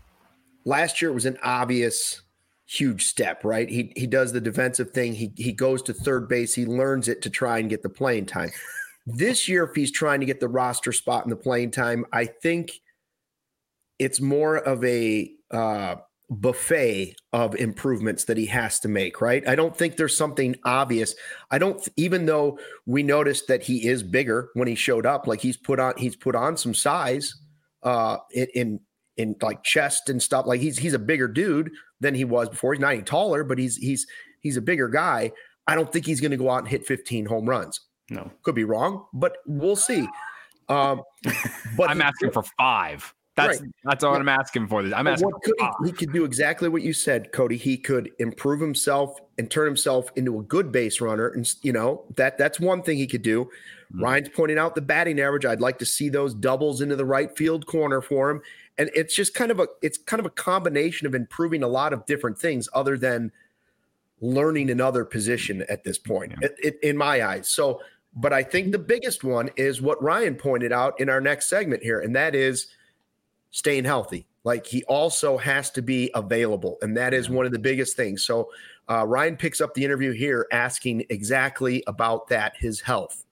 – last year it was an obvious huge step, right? He he does the defensive thing. He he goes to third base. He learns it to try and get the playing time. This year, if he's trying to get the roster spot in the playing time, I think it's more of a uh, – buffet of improvements that he has to make, right? I don't think there's something obvious. I don't, even though we noticed that he is bigger when he showed up, like he's put on, he's put on some size. uh, in, in in like chest and stuff. Like he's he's a bigger dude than he was before. He's not any taller, but he's he's he's a bigger guy. I don't think he's going to go out and hit fifteen home runs. No, could be wrong, but we'll see. Um, but I'm he, asking for five. That's right. that's all I'm asking for. This I'm asking. What could he, he could do exactly what you said, Cody. He could improve himself and turn himself into a good base runner, and you know that that's one thing he could do. Mm-hmm. Ryan's pointing out the batting average. I'd like to see those doubles into the right field corner for him, and it's just kind of a it's kind of a combination of improving a lot of different things other than learning another position at this point, yeah. it, it, in my eyes. So, but I think the biggest one is what Ryan pointed out in our next segment here, and that is staying healthy. Like he also has to be available. And that is one of the biggest things. So uh, Ryan picks up the interview here asking exactly about that, his health.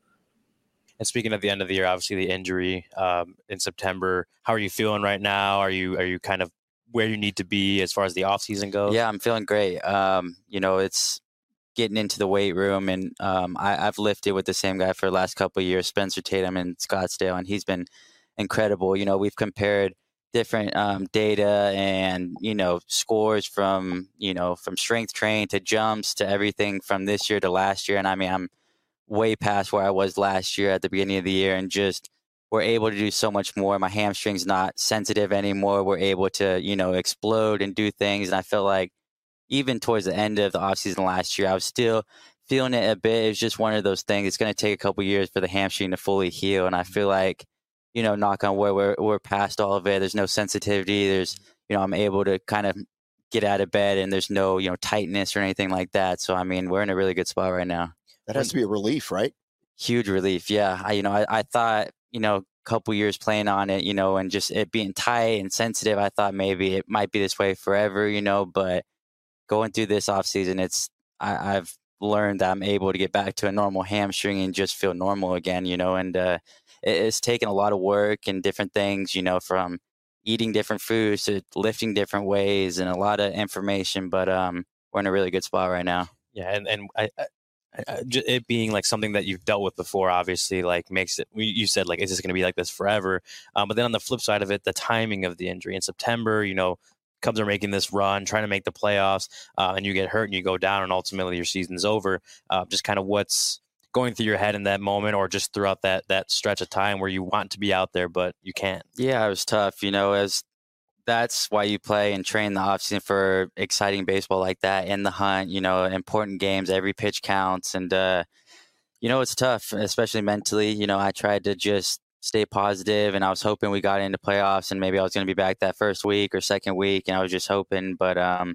And speaking of the end of the year, obviously the injury um, in September, how are you feeling right now? Are you, are you kind of where you need to be as far as the off season goes? Yeah, I'm feeling great. Um, you know, it's getting into the weight room, and um, I, I've lifted with the same guy for the last couple of years, Spencer Tatum in Scottsdale, and he's been incredible. You know, we've compared different um, data and, you know, scores from, you know, from strength training to jumps to everything from this year to last year. And I mean, I'm way past where I was last year at the beginning of the year, and just we're able to do so much more. My hamstring's not sensitive anymore. We're able to, you know, explode and do things. And I feel like even towards the end of the offseason last year, I was still feeling it a bit. It was just one of those things. It's going to take a couple years for the hamstring to fully heal. And I feel like, you know, knock on wood, we're, we're past all of it. There's no sensitivity. There's, you know, I'm able to kind of get out of bed, and there's no, you know, tightness or anything like that. So, I mean, we're in a really good spot right now. That has to be a relief, right? Huge relief. Yeah. I, you know, I, I thought, you know, a couple years playing on it, you know, and just it being tight and sensitive, I thought maybe it might be this way forever, you know, but going through this off season, it's, I, I've learned that I'm able to get back to a normal hamstring and just feel normal again, you know, and, uh, it's taken a lot of work and different things, you know, from eating different foods to lifting different ways and a lot of information. But um, we're in a really good spot right now. Yeah, and and I, I, I, it being like something that you've dealt with before, obviously, like makes it. You said like, is this going to be like this forever? Um, but then on the flip side of it, the timing of the injury in September, you know, Cubs are making this run, trying to make the playoffs, uh, and you get hurt and you go down, and ultimately your season's over. Uh, just kind of what's going through your head in that moment, or just throughout that that stretch of time where you want to be out there but you can't? Yeah, it was tough. You know, as that's why you play and train the offseason for exciting baseball like that, in the hunt. You know, important games, every pitch counts, and uh, you know, it's tough, especially mentally. You know, I tried to just stay positive, and I was hoping we got into playoffs, and maybe I was going to be back that first week or second week, and I was just hoping, but um.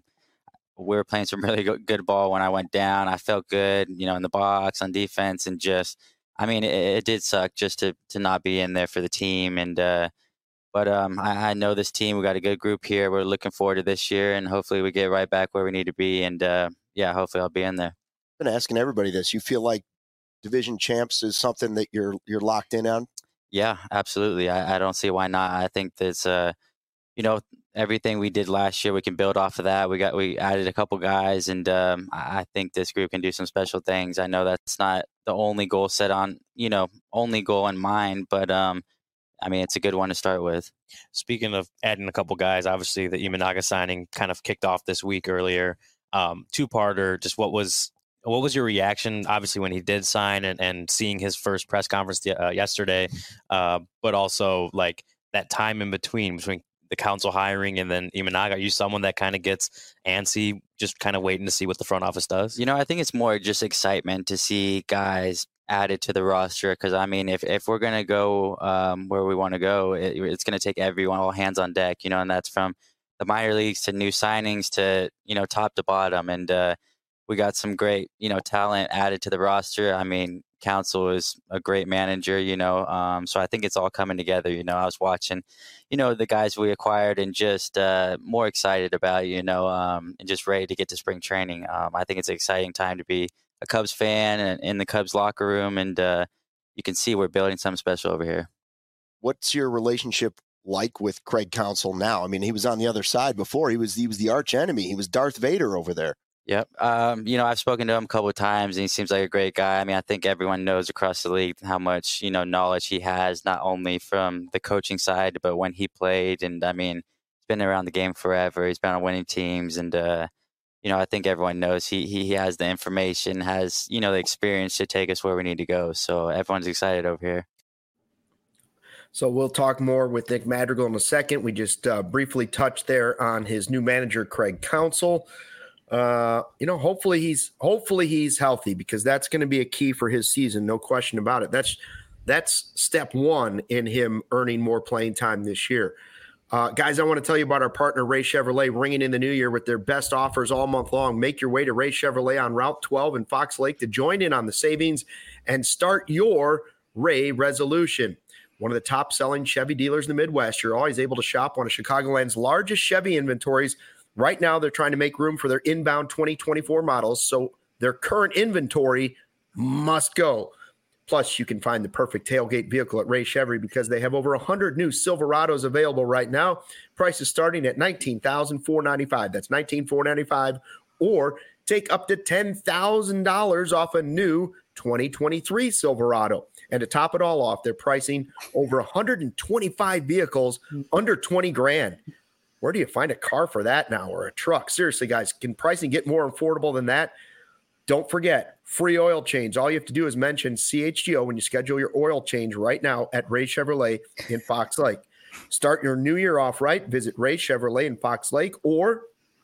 we were playing some really good ball when I went down. I felt good, you know, in the box, on defense, and just, I mean, it, it did suck just to to not be in there for the team. And, uh, but um, I, I know this team, we got a good group here. We're looking forward to this year, and hopefully we get right back where we need to be. And uh, yeah, hopefully I'll be in there. I've been asking everybody this. You feel like division champs is something that you're, you're locked in on? Yeah, absolutely. I, I don't see why not. I think that's, uh, you know, everything we did last year, we can build off of that. We got we added a couple guys, and um, I think this group can do some special things. I know that's not the only goal set on, you know, only goal in mind, but um, I mean, it's a good one to start with. Speaking of adding a couple guys, obviously the Imanaga signing kind of kicked off this week earlier. Um, two-parter, just what was what was your reaction, obviously, when he did sign, and, and seeing his first press conference uh, yesterday, uh, but also like that time in between, between the council hiring and then Imanaga? Are you someone that kind of gets antsy, just kind of waiting to see what the front office does? You know, I think it's more just excitement to see guys added to the roster, because I mean, if, if we're going to go um, where we want to go, it, it's going to take everyone, all hands on deck, you know, and that's from the minor leagues to new signings to, you know, top to bottom. And uh, we got some great, you know, talent added to the roster. I mean, Council is a great manager, you know, um, so I think it's all coming together. You know, I was watching, you know, the guys we acquired, and just uh, more excited about, you know, um, and just ready to get to spring training. Um, I think it's an exciting time to be a Cubs fan and in the Cubs locker room, and uh, you can see we're building something special over here. What's your relationship like with Craig Counsell now? I mean, he was on the other side before. He was he was the arch enemy. He was Darth Vader over there. Yep. Um, you know, I've spoken to him a couple of times, and he seems like a great guy. I mean, I think everyone knows across the league how much, you know, knowledge he has, not only from the coaching side, but when he played. And I mean, he's been around the game forever. He's been on winning teams. And, uh, you know, I think everyone knows he, he, he has the information, has, you know, the experience to take us where we need to go. So everyone's excited over here. So we'll talk more with Nick Madrigal in a second. We just uh, briefly touched there on his new manager, Craig Counsell. Uh, you know, hopefully he's hopefully he's healthy, because that's going to be a key for his season, no question about it. That's that's step one in him earning more playing time this year. Uh, guys, I want to tell you about our partner, Ray Chevrolet, ringing in the new year with their best offers all month long. Make your way to Ray Chevrolet on Route twelve in Fox Lake to join in on the savings and start your Ray resolution. One of the top-selling Chevy dealers in the Midwest. You're always able to shop one of Chicagoland's largest Chevy inventories. Right now, they're trying to make room for their inbound twenty twenty-four models, so their current inventory must go. Plus, you can find the perfect tailgate vehicle at Ray Chevy, because they have over one hundred new Silverados available right now. Prices starting at nineteen thousand four hundred ninety-five dollars. That's nineteen thousand four hundred ninety-five dollars. Or take up to ten thousand dollars off a new twenty twenty-three Silverado. And to top it all off, they're pricing over one hundred twenty-five vehicles under twenty grand. Where do you find a car for that now, or a truck? Seriously, guys, can pricing get more affordable than that? Don't forget, free oil change. All you have to do is mention C H G O when you schedule your oil change right now at Ray Chevrolet in Fox Lake. Start your new year off right. Visit Ray Chevrolet in Fox Lake or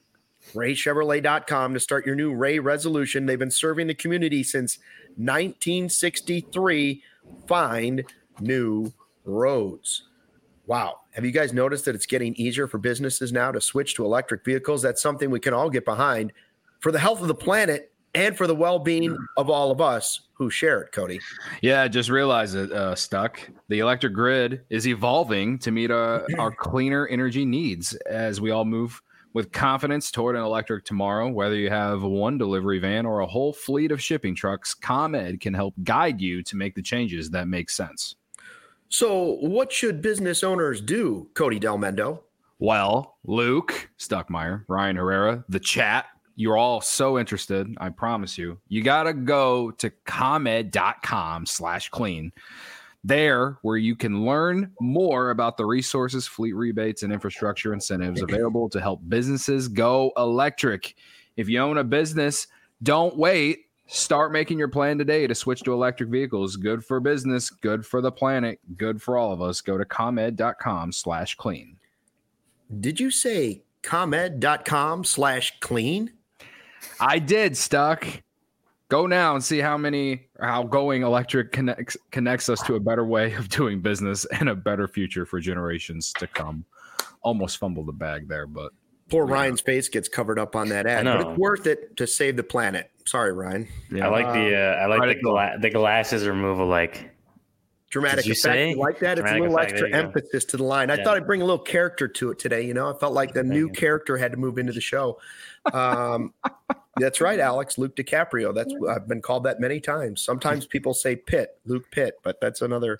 ray chevrolet dot com to start your new Ray resolution. They've been serving the community since nineteen sixty-three. Find new roads. Wow. Have you guys noticed that it's getting easier for businesses now to switch to electric vehicles? That's something we can all get behind for the health of the planet and for the well-being of all of us who share it, Cody. Yeah, just realize it, uh, Stuck. The electric grid is evolving to meet uh, our cleaner energy needs as we all move with confidence toward an electric tomorrow. Whether you have one delivery van or a whole fleet of shipping trucks, ComEd can help guide you to make the changes that make sense. So what should business owners do, Cody Del Mendo? Well, Luke Stuckmeyer, Ryan Herrera, the chat, you're all so interested. I promise you, you got to go to comed.com slash clean. There, where you can learn more about the resources, fleet rebates, and infrastructure incentives available to help businesses go electric. If you own a business, don't wait. Start making your plan today to switch to electric vehicles. Good for business, good for the planet, good for all of us. Go to comed.com slash clean. Did you say comed.com slash clean? I did, Stuck. Go now and see how many, how going electric connects connects us to a better way of doing business and a better future for generations to come. Almost fumbled the bag there, but poor yeah. Ryan's face gets covered up on that ad, but it's worth it to save the planet. Sorry, Ryan. Yeah. I like the uh, I like the, gla- the glasses removal, like dramatic effect. Say? You like that? It's dramatic a little effect. Extra emphasis to the line. I yeah. thought I'd bring a little character to it today. You know, I felt like the Thank new you. character had to move into the show. Um, that's right, Alex. Luke DiCaprio. That's I've been called that many times. Sometimes people say Pitt, Luke Pitt, but that's another.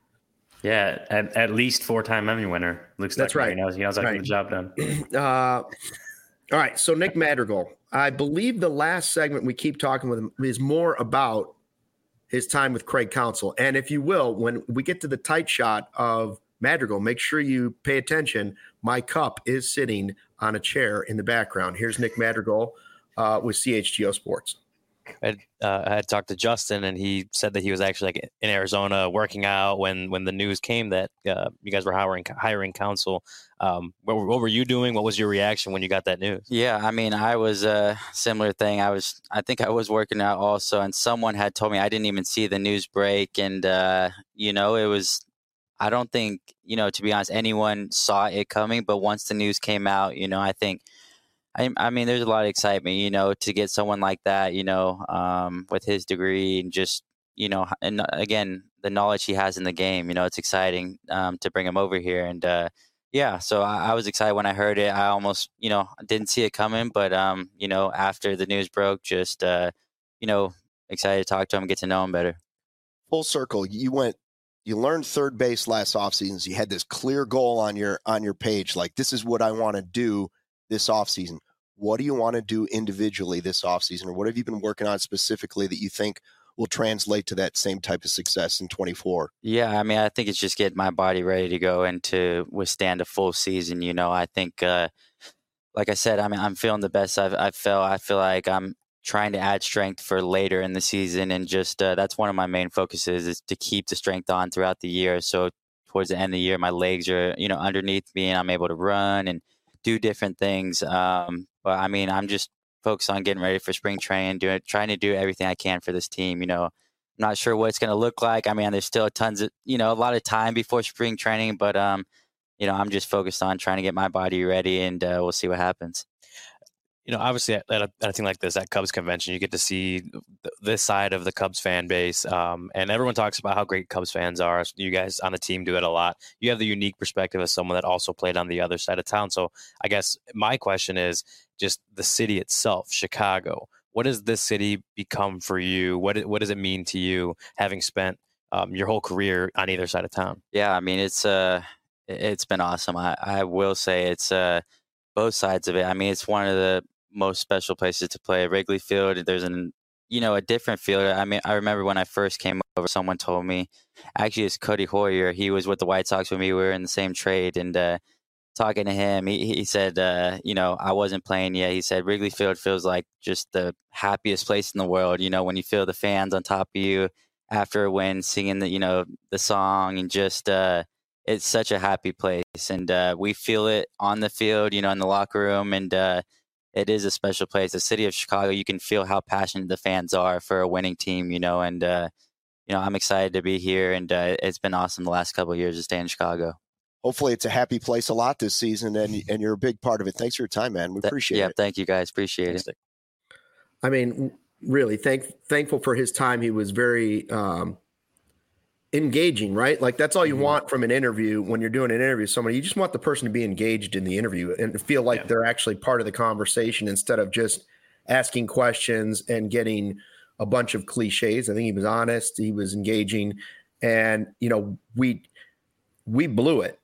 Yeah, at, at least four-time Emmy winner. Luke That's right. He knows, he knows how to get the job done. Uh, all right, so Nick Madrigal. I believe the last segment we keep talking with him is more about his time with Craig Counsell. And if you will, when we get to the tight shot of Madrigal, make sure you pay attention. My cup is sitting on a chair in the background. Here's Nick Madrigal uh, with C H G O Sports. I had, uh, I had talked to Justin, and he said that he was actually like in Arizona working out when, when the news came that uh, you guys were hiring hiring Counsell. Um, what, what were you doing? What was your reaction when you got that news? Yeah, I mean, I was a uh, similar thing. I was, I think I was working out also, and someone had told me I didn't even see the news break, and uh, you know, it was. I don't think, you know, to be honest, anyone saw it coming. But once the news came out, you know, I think. I, I mean, there's a lot of excitement, you know, to get someone like that, you know, um, with his degree and just, you know, and again, the knowledge he has in the game, you know, it's exciting um, to bring him over here. And uh, yeah, so I, I was excited when I heard it. I almost, you know, didn't see it coming. But, um, you know, after the news broke, just, uh, you know, excited to talk to him, get to know him better. Full circle. You went, you learned third base last offseason. So you had this clear goal on your on your page. Like, this is what I want to do this offseason. what do you want to do individually this offseason, or what have you been working on specifically that you think will translate to that same type of success in twenty-four? Yeah, I mean, I think it's just getting my body ready to go and to withstand a full season. You know, I think, uh, like I said, I mean, I'm feeling the best I've, I've felt. I feel like I'm trying to add strength for later in the season, and just uh, that's one of my main focuses is to keep the strength on throughout the year. So towards the end of the year, my legs are, you know, underneath me, and I'm able to run and do different things. Um, but I mean, I'm just focused on getting ready for spring training, doing, trying to do everything I can for this team. You know, I'm not sure what it's going to look like. I mean, there's still tons of, you know, a lot of time before spring training, but, um, you know, I'm just focused on trying to get my body ready, and uh, we'll see what happens. You know, obviously at a, at a thing like this, at Cubs convention, you get to see th- this side of the Cubs fan base. Um, and everyone talks about how great Cubs fans are. You guys on the team do it a lot. You have the unique perspective as someone that also played on the other side of town. So I guess my question is just the city itself, Chicago. What has this city become for you? What, what does it mean to you having spent um, your whole career on either side of town? Yeah, I mean, it's uh, it's been awesome. I, I will say it's uh, both sides of it. I mean, it's one of the most special places to play. Wrigley Field, there's an, you know, a different field. I mean, I remember when I first came over, someone told me, actually it's Cody Hoyer. He was with the White Sox with me. We were in the same trade, and uh, talking to him, he, he said, uh, you know, I wasn't playing yet. He said, Wrigley Field feels like just the happiest place in the world. You know, when you feel the fans on top of you after a win, singing the, you know, the song, and just, uh, it's such a happy place. And uh, we feel it on the field, you know, in the locker room, and uh, it is a special place. The city of Chicago, you can feel how passionate the fans are for a winning team, you know, and, uh, you know, I'm excited to be here, and uh, it's been awesome the last couple of years to stay in Chicago. Hopefully it's a happy place a lot this season, and and you're a big part of it. Thanks for your time, man. We appreciate yeah, it. Yeah, thank you guys. Appreciate it. I mean, really thank, thankful for his time. He was very um, engaging, right? Like that's all you mm-hmm. want from an interview when you're doing an interview with somebody. You just want the person to be engaged in the interview and feel like yeah. they're actually part of the conversation instead of just asking questions and getting a bunch of cliches. I think he was honest. He was engaging. And, you know, we we blew it.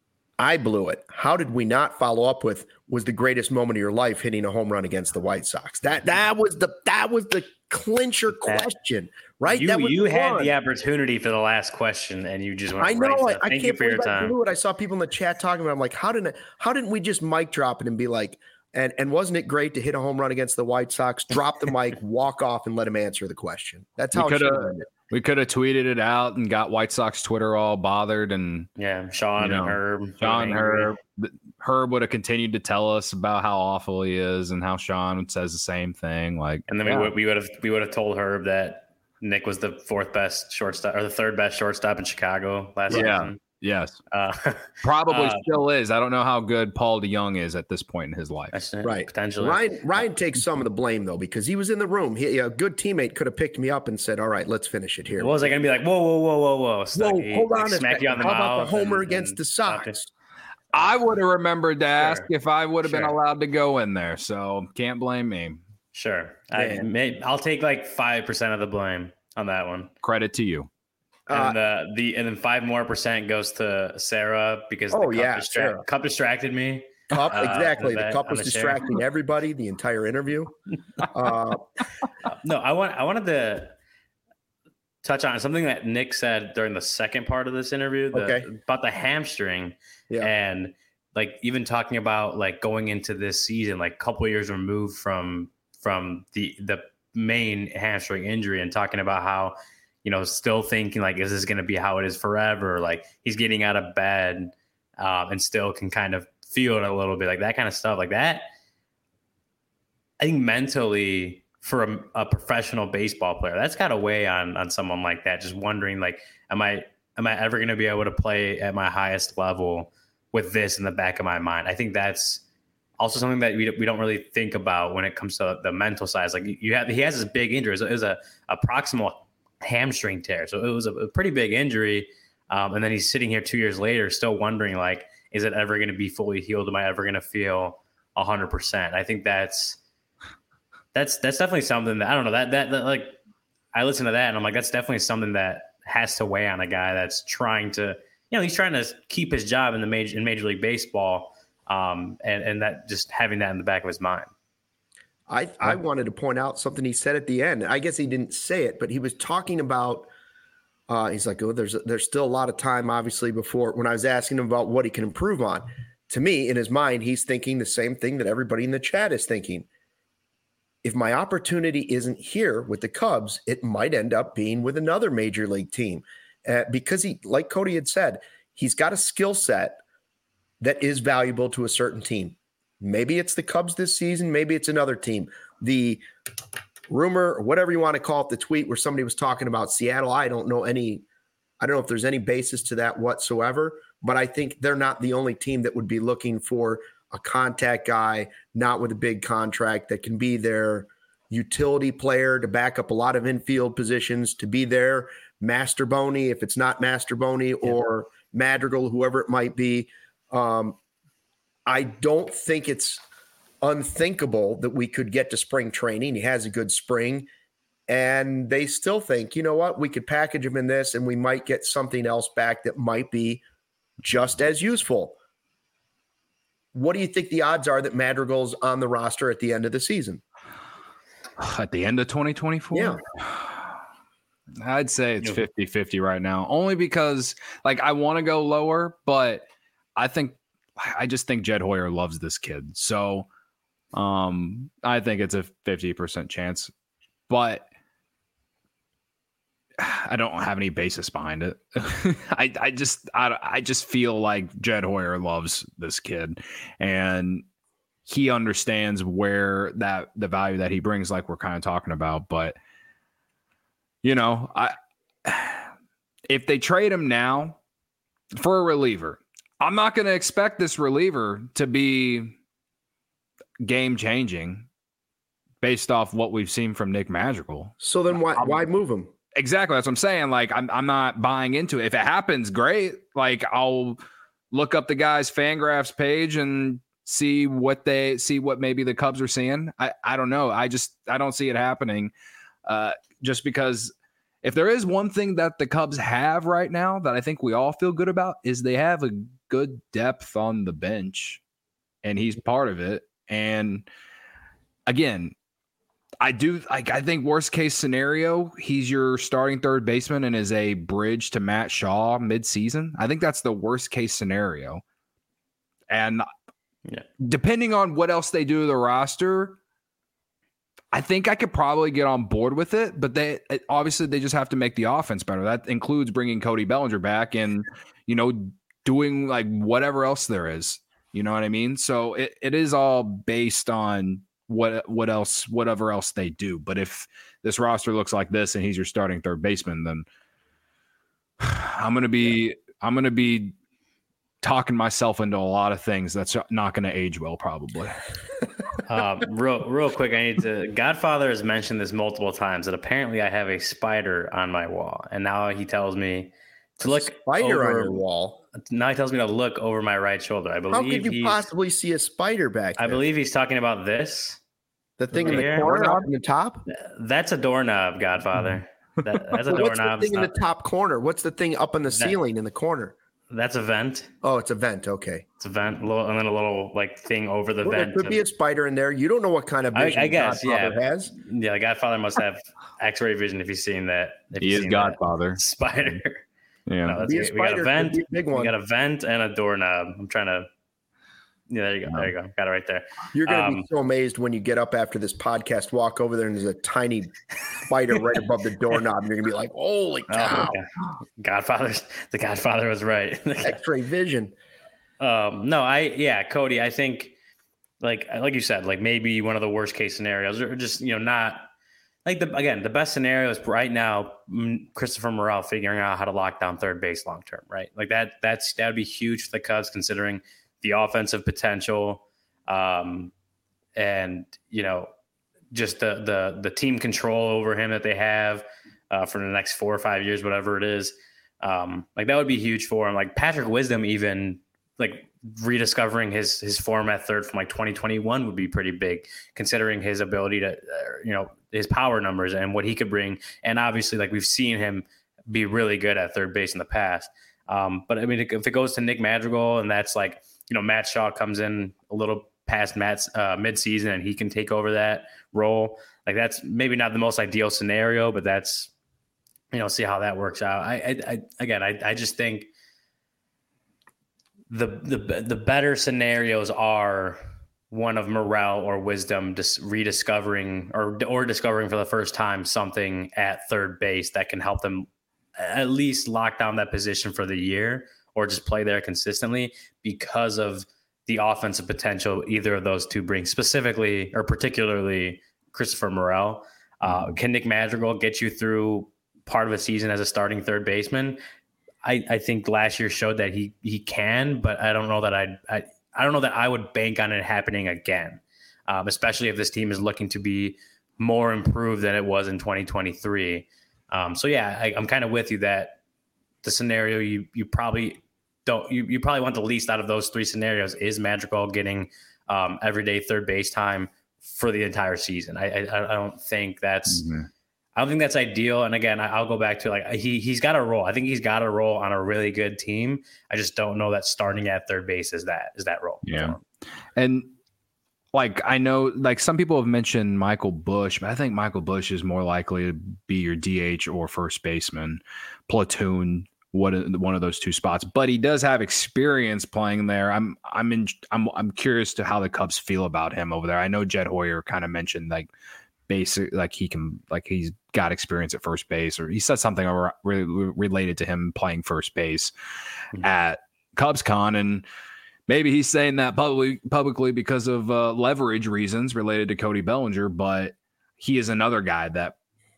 I blew it. How did we not follow up with was the greatest moment of your life hitting a home run against the White Sox? That that was the that was the clincher question, right? You that was you had one. the opportunity for the last question, and you just went. I know. Right. So I, thank I can't you for your believe I time. blew it. I saw people in the chat talking about it. I'm like, how didn't how didn't we just mic drop it and be like, and and wasn't it great to hit a home run against the White Sox? Drop the mic, walk off, and let him answer the question. That's how we it should have been. We could have tweeted it out and got White Sox Twitter all bothered, and yeah, Sean you know, and Herb, Sean and Herb, Herb would have continued to tell us about how awful he is and how Sean says the same thing. Like, and then yeah. we would we would have we would have told Herb that Nick was the fourth best shortstop or the third best shortstop in Chicago last yeah. season. Yes, uh, probably uh, still is. I don't know how good Paul DeYoung is at this point in his life. Right, potentially. Ryan Ryan takes some of the blame though because he was in the room. He, a good teammate could have picked me up and said, "All right, let's finish it here." What was I going to be like? Whoa, whoa, whoa, whoa, whoa! Stuck, whoa, hold on, like, smack you on the how mouth. about the homer and, against and the Sox? I would have remembered to ask sure. if I would have sure. been allowed to go in there. So can't blame me. Sure, I may, I'll take like five percent of the blame on that one. Credit to you. And uh, the and then five more percent goes to Sarah because oh, the cup, yeah, distra- cup distracted me. Cup, uh, exactly. The, the cup was the distracting everybody the entire interview. Uh, no, I want I wanted to touch on something that Nick said during the second part of this interview the, okay. about the hamstring, yeah. and like even talking about like going into this season, like a couple of years removed from from the the main hamstring injury, and talking about how. You know, still thinking like, is this going to be how it is forever? Like he's getting out of bed um, and still can kind of feel it a little bit, like that kind of stuff like that. I think mentally for a, a professional baseball player, that's got to weigh on on someone like that. Just wondering, like, am I am I ever going to be able to play at my highest level with this in the back of my mind? I think that's also something that we we don't really think about when it comes to the mental side. Like you have, he has this big injury. It was a, a proximal hamstring tear, so it was a, a pretty big injury, um, and then he's sitting here two years later still wondering like, is it ever going to be fully healed? Am I ever going to feel a hundred percent? I think that's that's that's definitely something that I don't know that, that that like I listen to that and I'm like, that's definitely something that has to weigh on a guy that's trying to, you know, he's trying to keep his job in the major in Major League Baseball, um, and and that just having that in the back of his mind. I, I wanted to point out something he said at the end. I guess he didn't say it, but he was talking about, uh, he's like, oh, there's, there's still a lot of time, obviously, before when I was asking him about what he can improve on. To me, in his mind, he's thinking the same thing that everybody in the chat is thinking. If my opportunity isn't here with the Cubs, it might end up being with another major league team. Uh, because he, like Cody had said, he's got a skill set that is valuable to a certain team. Maybe it's the Cubs this season. Maybe it's another team. The rumor, or whatever you want to call it, the tweet where somebody was talking about Seattle, I don't know any, I don't know if there's any basis to that whatsoever, but I think they're not the only team that would be looking for a contact guy, not with a big contract, that can be their utility player to back up a lot of infield positions, to be their Master Boney, if it's not Master Boney or Madrigal, whoever it might be. Um, I don't think it's unthinkable that we could get to spring training. He has a good spring, and they still think, you know what, we could package him in this and we might get something else back that might be just as useful. What do you think the odds are that Madrigal's on the roster at the end of the season? At the end of twenty twenty-four? Yeah. I'd say it's fifty-fifty right now, only because, like, I want to go lower, but I think I just think Jed Hoyer loves this kid. So um, I think it's a fifty percent chance, but I don't have any basis behind it. I, I just I, I just feel like Jed Hoyer loves this kid, and he understands where that the value that he brings, like we're kind of talking about. But you know, I if they trade him now for a reliever, I'm not going to expect this reliever to be game changing based off what we've seen from Nick Madrigal. So then why why move him? Exactly. That's what I'm saying. Like, I'm I'm not buying into it. If it happens, great. Like, I'll look up the guy's Fangraphs page and see what they see, what maybe the Cubs are seeing. I, I don't know. I just, I don't see it happening. Uh, just because if there is one thing that the Cubs have right now that I think we all feel good about, is they have a good depth on the bench, and he's part of it. And again, I do like, I think worst case scenario, he's your starting third baseman and is a bridge to Matt Shaw mid-season. I think that's the worst case scenario. And yeah, depending on what else they do to the roster, I think I could probably get on board with it, but they obviously they just have to make the offense better. That includes bringing Cody Bellinger back and, you know, doing like whatever else there is. You know what I mean? So it, it is all based on what what else, whatever else they do. But if this roster looks like this and he's your starting third baseman, then I'm gonna be I'm gonna be talking myself into a lot of things that's not going to age well, probably. um, real, real quick, I need to. Godfather has mentioned this multiple times that apparently I have a spider on my wall, and now he tells me to look spider over, on your wall. Now he tells me to look over my right shoulder. I believe. How could you possibly see a spider back there? I believe he's talking about this. The thing right in the here. corner, up in the top. That's a doorknob, Godfather. That, that's a What's doorknob. the thing not, in the top corner? What's the thing up in the that, ceiling in the corner? That's a vent. Oh, it's a vent. Okay, it's a vent, little, and then a little like thing over the well, vent. There could be a spider in there. You don't know what kind of vision I, I guess. Godfather Yeah, has. yeah. The Godfather must have X-ray vision if he's seen that. If he is Godfather. Spider. Yeah, no, that's be a we got spider, a vent. be a big one. We got a vent and a doorknob. I'm trying to. Yeah, there you go. Yeah. There you go. Got it right there. You're going to Um, be so amazed when you get up after this podcast, walk over there, and there's a tiny spider right above the doorknob. And you're going to be like, holy cow. Oh, okay. Godfather's the Godfather was right. X-ray vision. Um, no, I yeah, Cody. I think like like you said, like maybe one of the worst case scenarios, or just you know not like the again the best scenario is right now Christopher Morel figuring out how to lock down third base long term, right? Like that that's that would be huge for the Cubs considering the offensive potential, um, and you know just the the the team control over him that they have uh, for the next four or five years, whatever it is. Um, like that would be huge for him. Like Patrick Wisdom, even like rediscovering his his form at third from like twenty twenty-one would be pretty big, considering his ability to, uh, you know, his power numbers and what he could bring. And obviously, like we've seen him be really good at third base in the past. Um, but I mean, if it goes to Nick Madrigal and that's like, you know, Matt Shaw comes in a little past Matt's uh, midseason and he can take over that role. Like that's maybe not the most ideal scenario, but that's, you know, see how that works out. I, I, I again, I, I just think the, the, the better scenarios are one of Morel or Wisdom just rediscovering or, or discovering for the first time something at third base that can help them at least lock down that position for the year or just play there consistently because of the offensive potential either of those two bring, specifically or particularly Christopher Morel. Uh, can Nick Madrigal get you through part of a season as a starting third baseman? I, I think last year showed that he he can, but I don't know that I'd, I I don't know that I would bank on it happening again, um, especially if this team is looking to be more improved than it was in twenty twenty-three. Um, so yeah, I, I'm kind of with you that the scenario you you probably don't you, you probably want the least out of those three scenarios is Madrigal getting um, everyday third base time for the entire season. I I, I don't think that's mm-hmm. I don't think that's ideal. And again, I, I'll go back to like he he's got a role. I think he's got a role on a really good team. I just don't know that starting at third base is that is that role. Yeah, and like I know like some people have mentioned Michael Busch, but I think Michael Busch is more likely to be your D H or first baseman, platoon. What one of those two spots, but he does have experience playing there. I'm I'm in I'm I'm curious to how the Cubs feel about him over there. I know Jed Hoyer kind of mentioned like basic like he can like he's got experience at first base, or he said something really related to him playing first base mm-hmm. at CubsCon, and maybe he's saying that publicly publicly because of uh, leverage reasons related to Cody Bellinger. But he is another guy that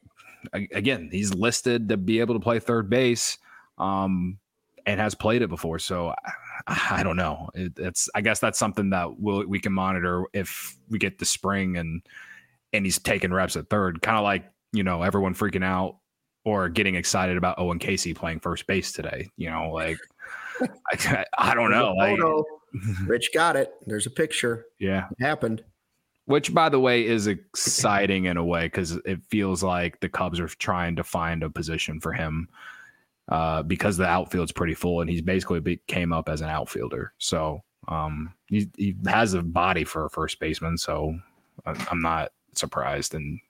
again he's listed to be able to play third base. Um, and has played it before. So I, I don't know. It, it's, I guess that's something that we'll, we can monitor if we get the spring and, and he's taking reps at third, kind of like, you know, everyone freaking out or getting excited about Owen Casey playing first base today, you know, like, I, I don't know. Like, Rich got it. There's a picture. Yeah. It happened. Which, by the way, is exciting in a way, because it feels like the Cubs are trying to find a position for him. Uh, because the outfield's pretty full, and he's basically be, came up as an outfielder. So um, he, he has a body for a first baseman. So I'm not surprised, and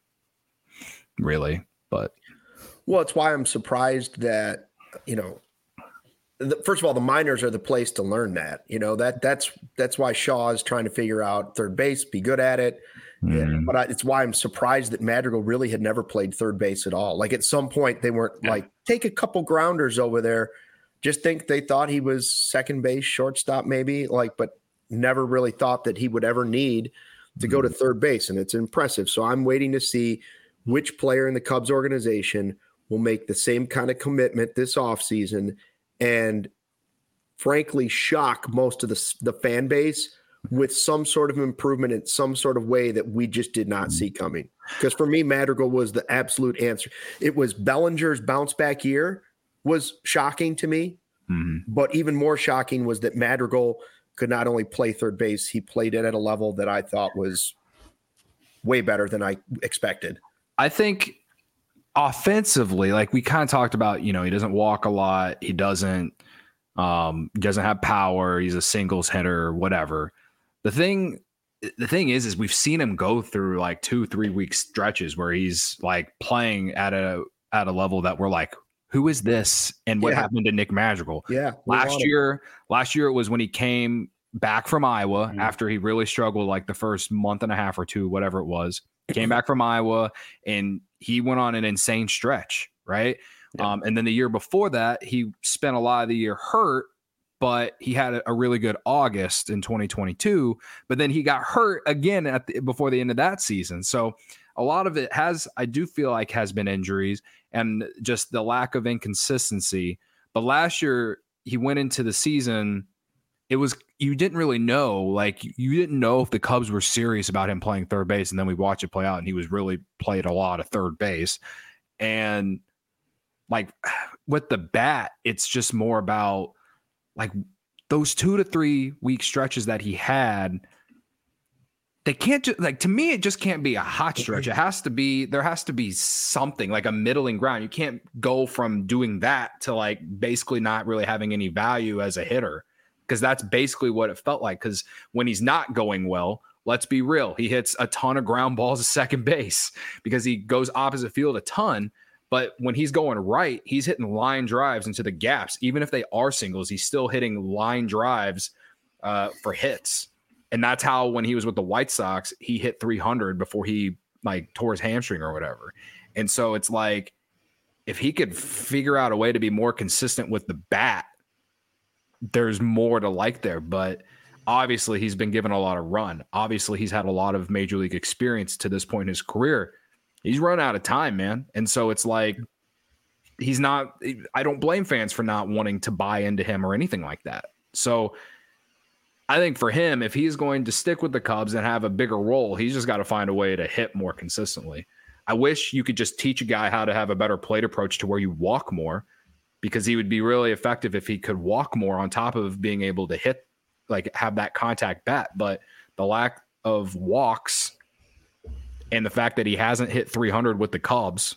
really, but well, it's why I'm surprised that you know. The, first of all, the minors are the place to learn that. You know that that's that's why Shaw is trying to figure out third base, be good at it. Mm-hmm. Yeah, but I, it's why I'm surprised that Madrigal really had never played third base at all. Like at some point they weren't yeah. like, take a couple grounders over there. Just think they thought he was second base, shortstop maybe, like, but never really thought that he would ever need to mm-hmm. go to third base. And it's impressive. So I'm waiting to see which player in the Cubs organization will make the same kind of commitment this offseason and frankly shock most of the, the fan base with some sort of improvement in some sort of way that we just did not see coming. Because for me, Madrigal was the absolute answer. It was Bellinger's bounce back year was shocking to me, mm-hmm. but even more shocking was that Madrigal could not only play third base, he played it at a level that I thought was way better than I expected. I think offensively, like we kind of talked about, you know, he doesn't walk a lot. He doesn't, um, doesn't have power. He's a singles hitter, whatever. The thing, the thing is, is we've seen him go through like two, three week stretches where he's like playing at a, at a level that we're like, who is this? And what yeah. happened to Nick Madrigal? Yeah. Last year, last year it was when he came back from Iowa mm-hmm. after he really struggled like the first month and a half or two, whatever it was. Came back from Iowa and he went on an insane stretch, right? Yeah. Um, and then the year before that, he spent a lot of the year hurt, but he had a, a really good August in twenty twenty-two. But then he got hurt again at the, before the end of that season. So a lot of it has, I do feel like, has been injuries and just the lack of inconsistency. But last year, he went into the season. It was, you didn't really know, like you didn't know if the Cubs were serious about him playing third base. And then we watched it play out and he was really played a lot of third base. And like with the bat, it's just more about like those two to three week stretches that he had. They can't just like, to me, it just can't be a hot stretch. It has to be, there has to be something like a middling ground. You can't go from doing that to like basically not really having any value as a hitter. because that's basically what it felt like. Because when he's not going well, let's be real, he hits a ton of ground balls at second base because he goes opposite field a ton. But when he's going right, he's hitting line drives into the gaps. Even if they are singles, he's still hitting line drives uh, for hits. And that's how, when he was with the White Sox, he hit three hundred before he like tore his hamstring or whatever. And so it's like, if he could figure out a way to be more consistent with the bat, there's more to like there. But obviously he's been given a lot of run. Obviously he's had a lot of major league experience to this point in his career. He's run out of time, man. And so it's like, he's not, I don't blame fans for not wanting to buy into him or anything like that. So I think for him, if he's going to stick with the Cubs and have a bigger role, he's just got to find a way to hit more consistently. I wish you could just teach a guy how to have a better plate approach to where you walk more, because he would be really effective if he could walk more on top of being able to hit, like have that contact bat. But the lack of walks and the fact that he hasn't hit three hundred with the Cubs,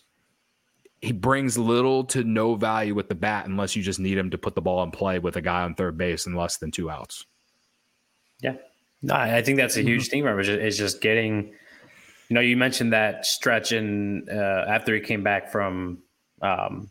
he brings little to no value with the bat unless you just need him to put the ball in play with a guy on third base in less than two outs. Yeah. No, I think that's a huge thing, Robert, is just getting, you know, you mentioned that stretch in uh, after he came back from um,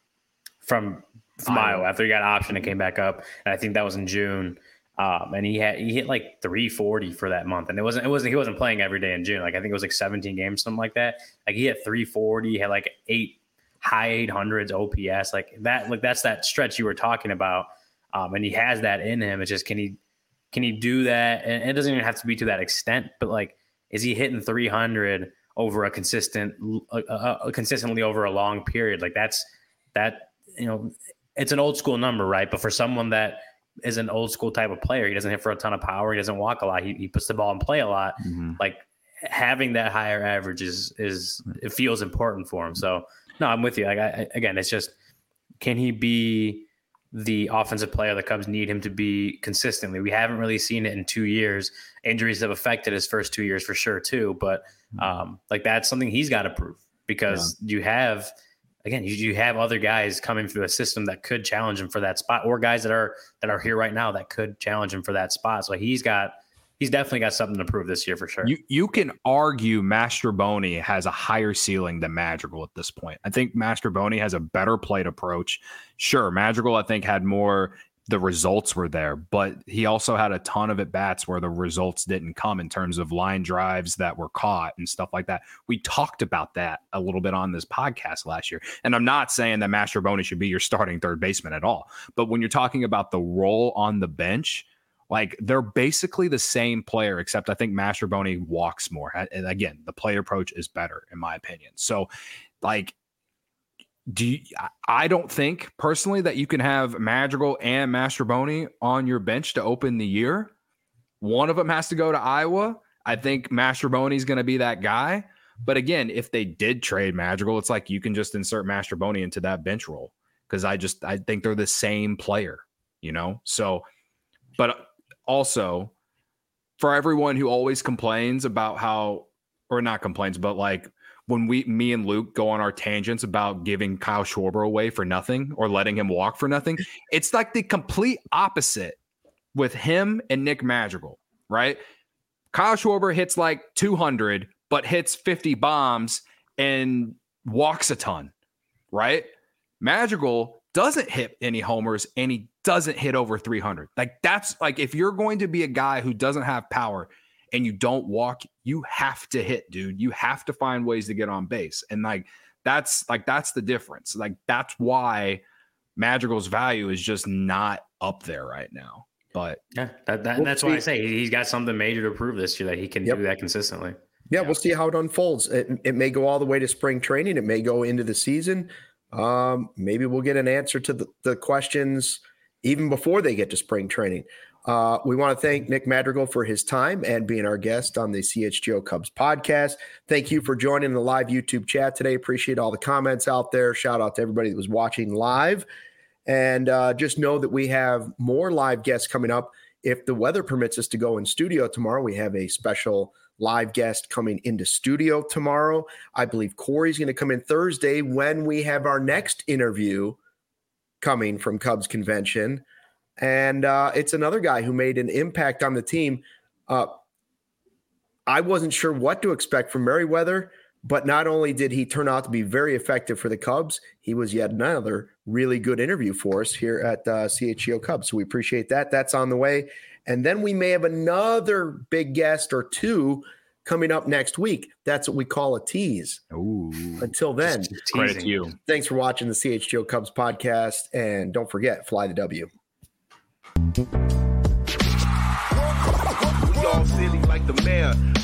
from, from Iowa, after he got optioned and came back up. And I think that was in June. Um, and he had he hit like three forty for that month, and it wasn't it wasn't he wasn't playing every day in June. Like I think it was like seventeen games, something like that. Like he hit three forty, he had like eight high eight hundreds O P S, like that. Like that's that stretch you were talking about, um, and he has that in him. It's just can he can he do that? And it doesn't even have to be to that extent, but like is he hitting three hundred over a consistent, uh, uh, consistently over a long period? Like that's that you know, it's an old school number, right? But for someone that is an old school type of player, he doesn't hit for a ton of power, he doesn't walk a lot, he, he puts the ball in play a lot. Mm-hmm. Like having that higher average is is it feels important for him. So no, I'm with you. Like I, again, it's just, can he be the offensive player the Cubs need him to be consistently? We haven't really seen it in two years. Injuries have affected his first two years for sure too. But um, like that's something he's got to prove, because yeah. you have. Again, you, you have other guys coming through a system that could challenge him for that spot, or guys that are that are here right now that could challenge him for that spot. So he's got he's definitely got something to prove this year for sure. You you can argue Mastrobuoni has a higher ceiling than Madrigal at this point. I think Mastrobuoni has a better plate approach. Sure, Madrigal I think had more. The results were there, but he also had a ton of at bats where the results didn't come in terms of line drives that were caught and stuff like that. We talked about that a little bit on this podcast last year. And I'm not saying that Mastrobuoni should be your starting third baseman at all. But when you're talking about the role on the bench, like they're basically the same player, except I think Mastrobuoni walks more. And again, the play approach is better in my opinion. So like, Do you, I don't think personally that you can have Madrigal and Mastrobuoni on your bench to open the year. One of them has to go to Iowa. I think Mastrobuoni is going to be that guy. But again, if they did trade Madrigal, it's like you can just insert Mastrobuoni into that bench role, because I just I think they're the same player, you know. So, but also for everyone who always complains about how, or not complains, but like. When we, me and Luke go on our tangents about giving Kyle Schwarber away for nothing or letting him walk for nothing, it's like the complete opposite with him and Nick Madrigal, right? Kyle Schwarber hits like two hundred, but hits fifty bombs and walks a ton, right? Madrigal doesn't hit any homers and he doesn't hit over three hundred. Like that's like, if you're going to be a guy who doesn't have power and you don't walk, you have to hit, dude. You have to find ways to get on base. And like, that's like, that's the difference. Like, that's why Madrigal's value is just not up there right now. But yeah, that, that, we'll that's see. Why I say he's got something major to prove this year, that he can yep. do that consistently. Yeah, yeah, we'll see how it unfolds. It, it may go all the way to spring training. It may go into the season. Um, maybe we'll get an answer to the, the questions even before they get to spring training. Uh, we want to thank Nick Madrigal for his time and being our guest on the C H G O Cubs podcast. Thank you for joining the live YouTube chat today. Appreciate all the comments out there. Shout out to everybody that was watching live. And uh, just know that we have more live guests coming up. If the weather permits us to go in studio tomorrow, we have a special live guest coming into studio tomorrow. I believe Corey's going to come in Thursday when we have our next interview coming from Cubs Convention. And uh, it's another guy who made an impact on the team. Uh, I wasn't sure what to expect from Merriweather, but not only did he turn out to be very effective for the Cubs, he was yet another really good interview for us here at uh, C H G O Cubs. So we appreciate that. That's on the way. And then we may have another big guest or two coming up next week. That's what we call a tease. Ooh. Until then, credit to you. Thanks for watching the C H G O Cubs podcast. And don't forget, fly the W. We all silly like the mayor.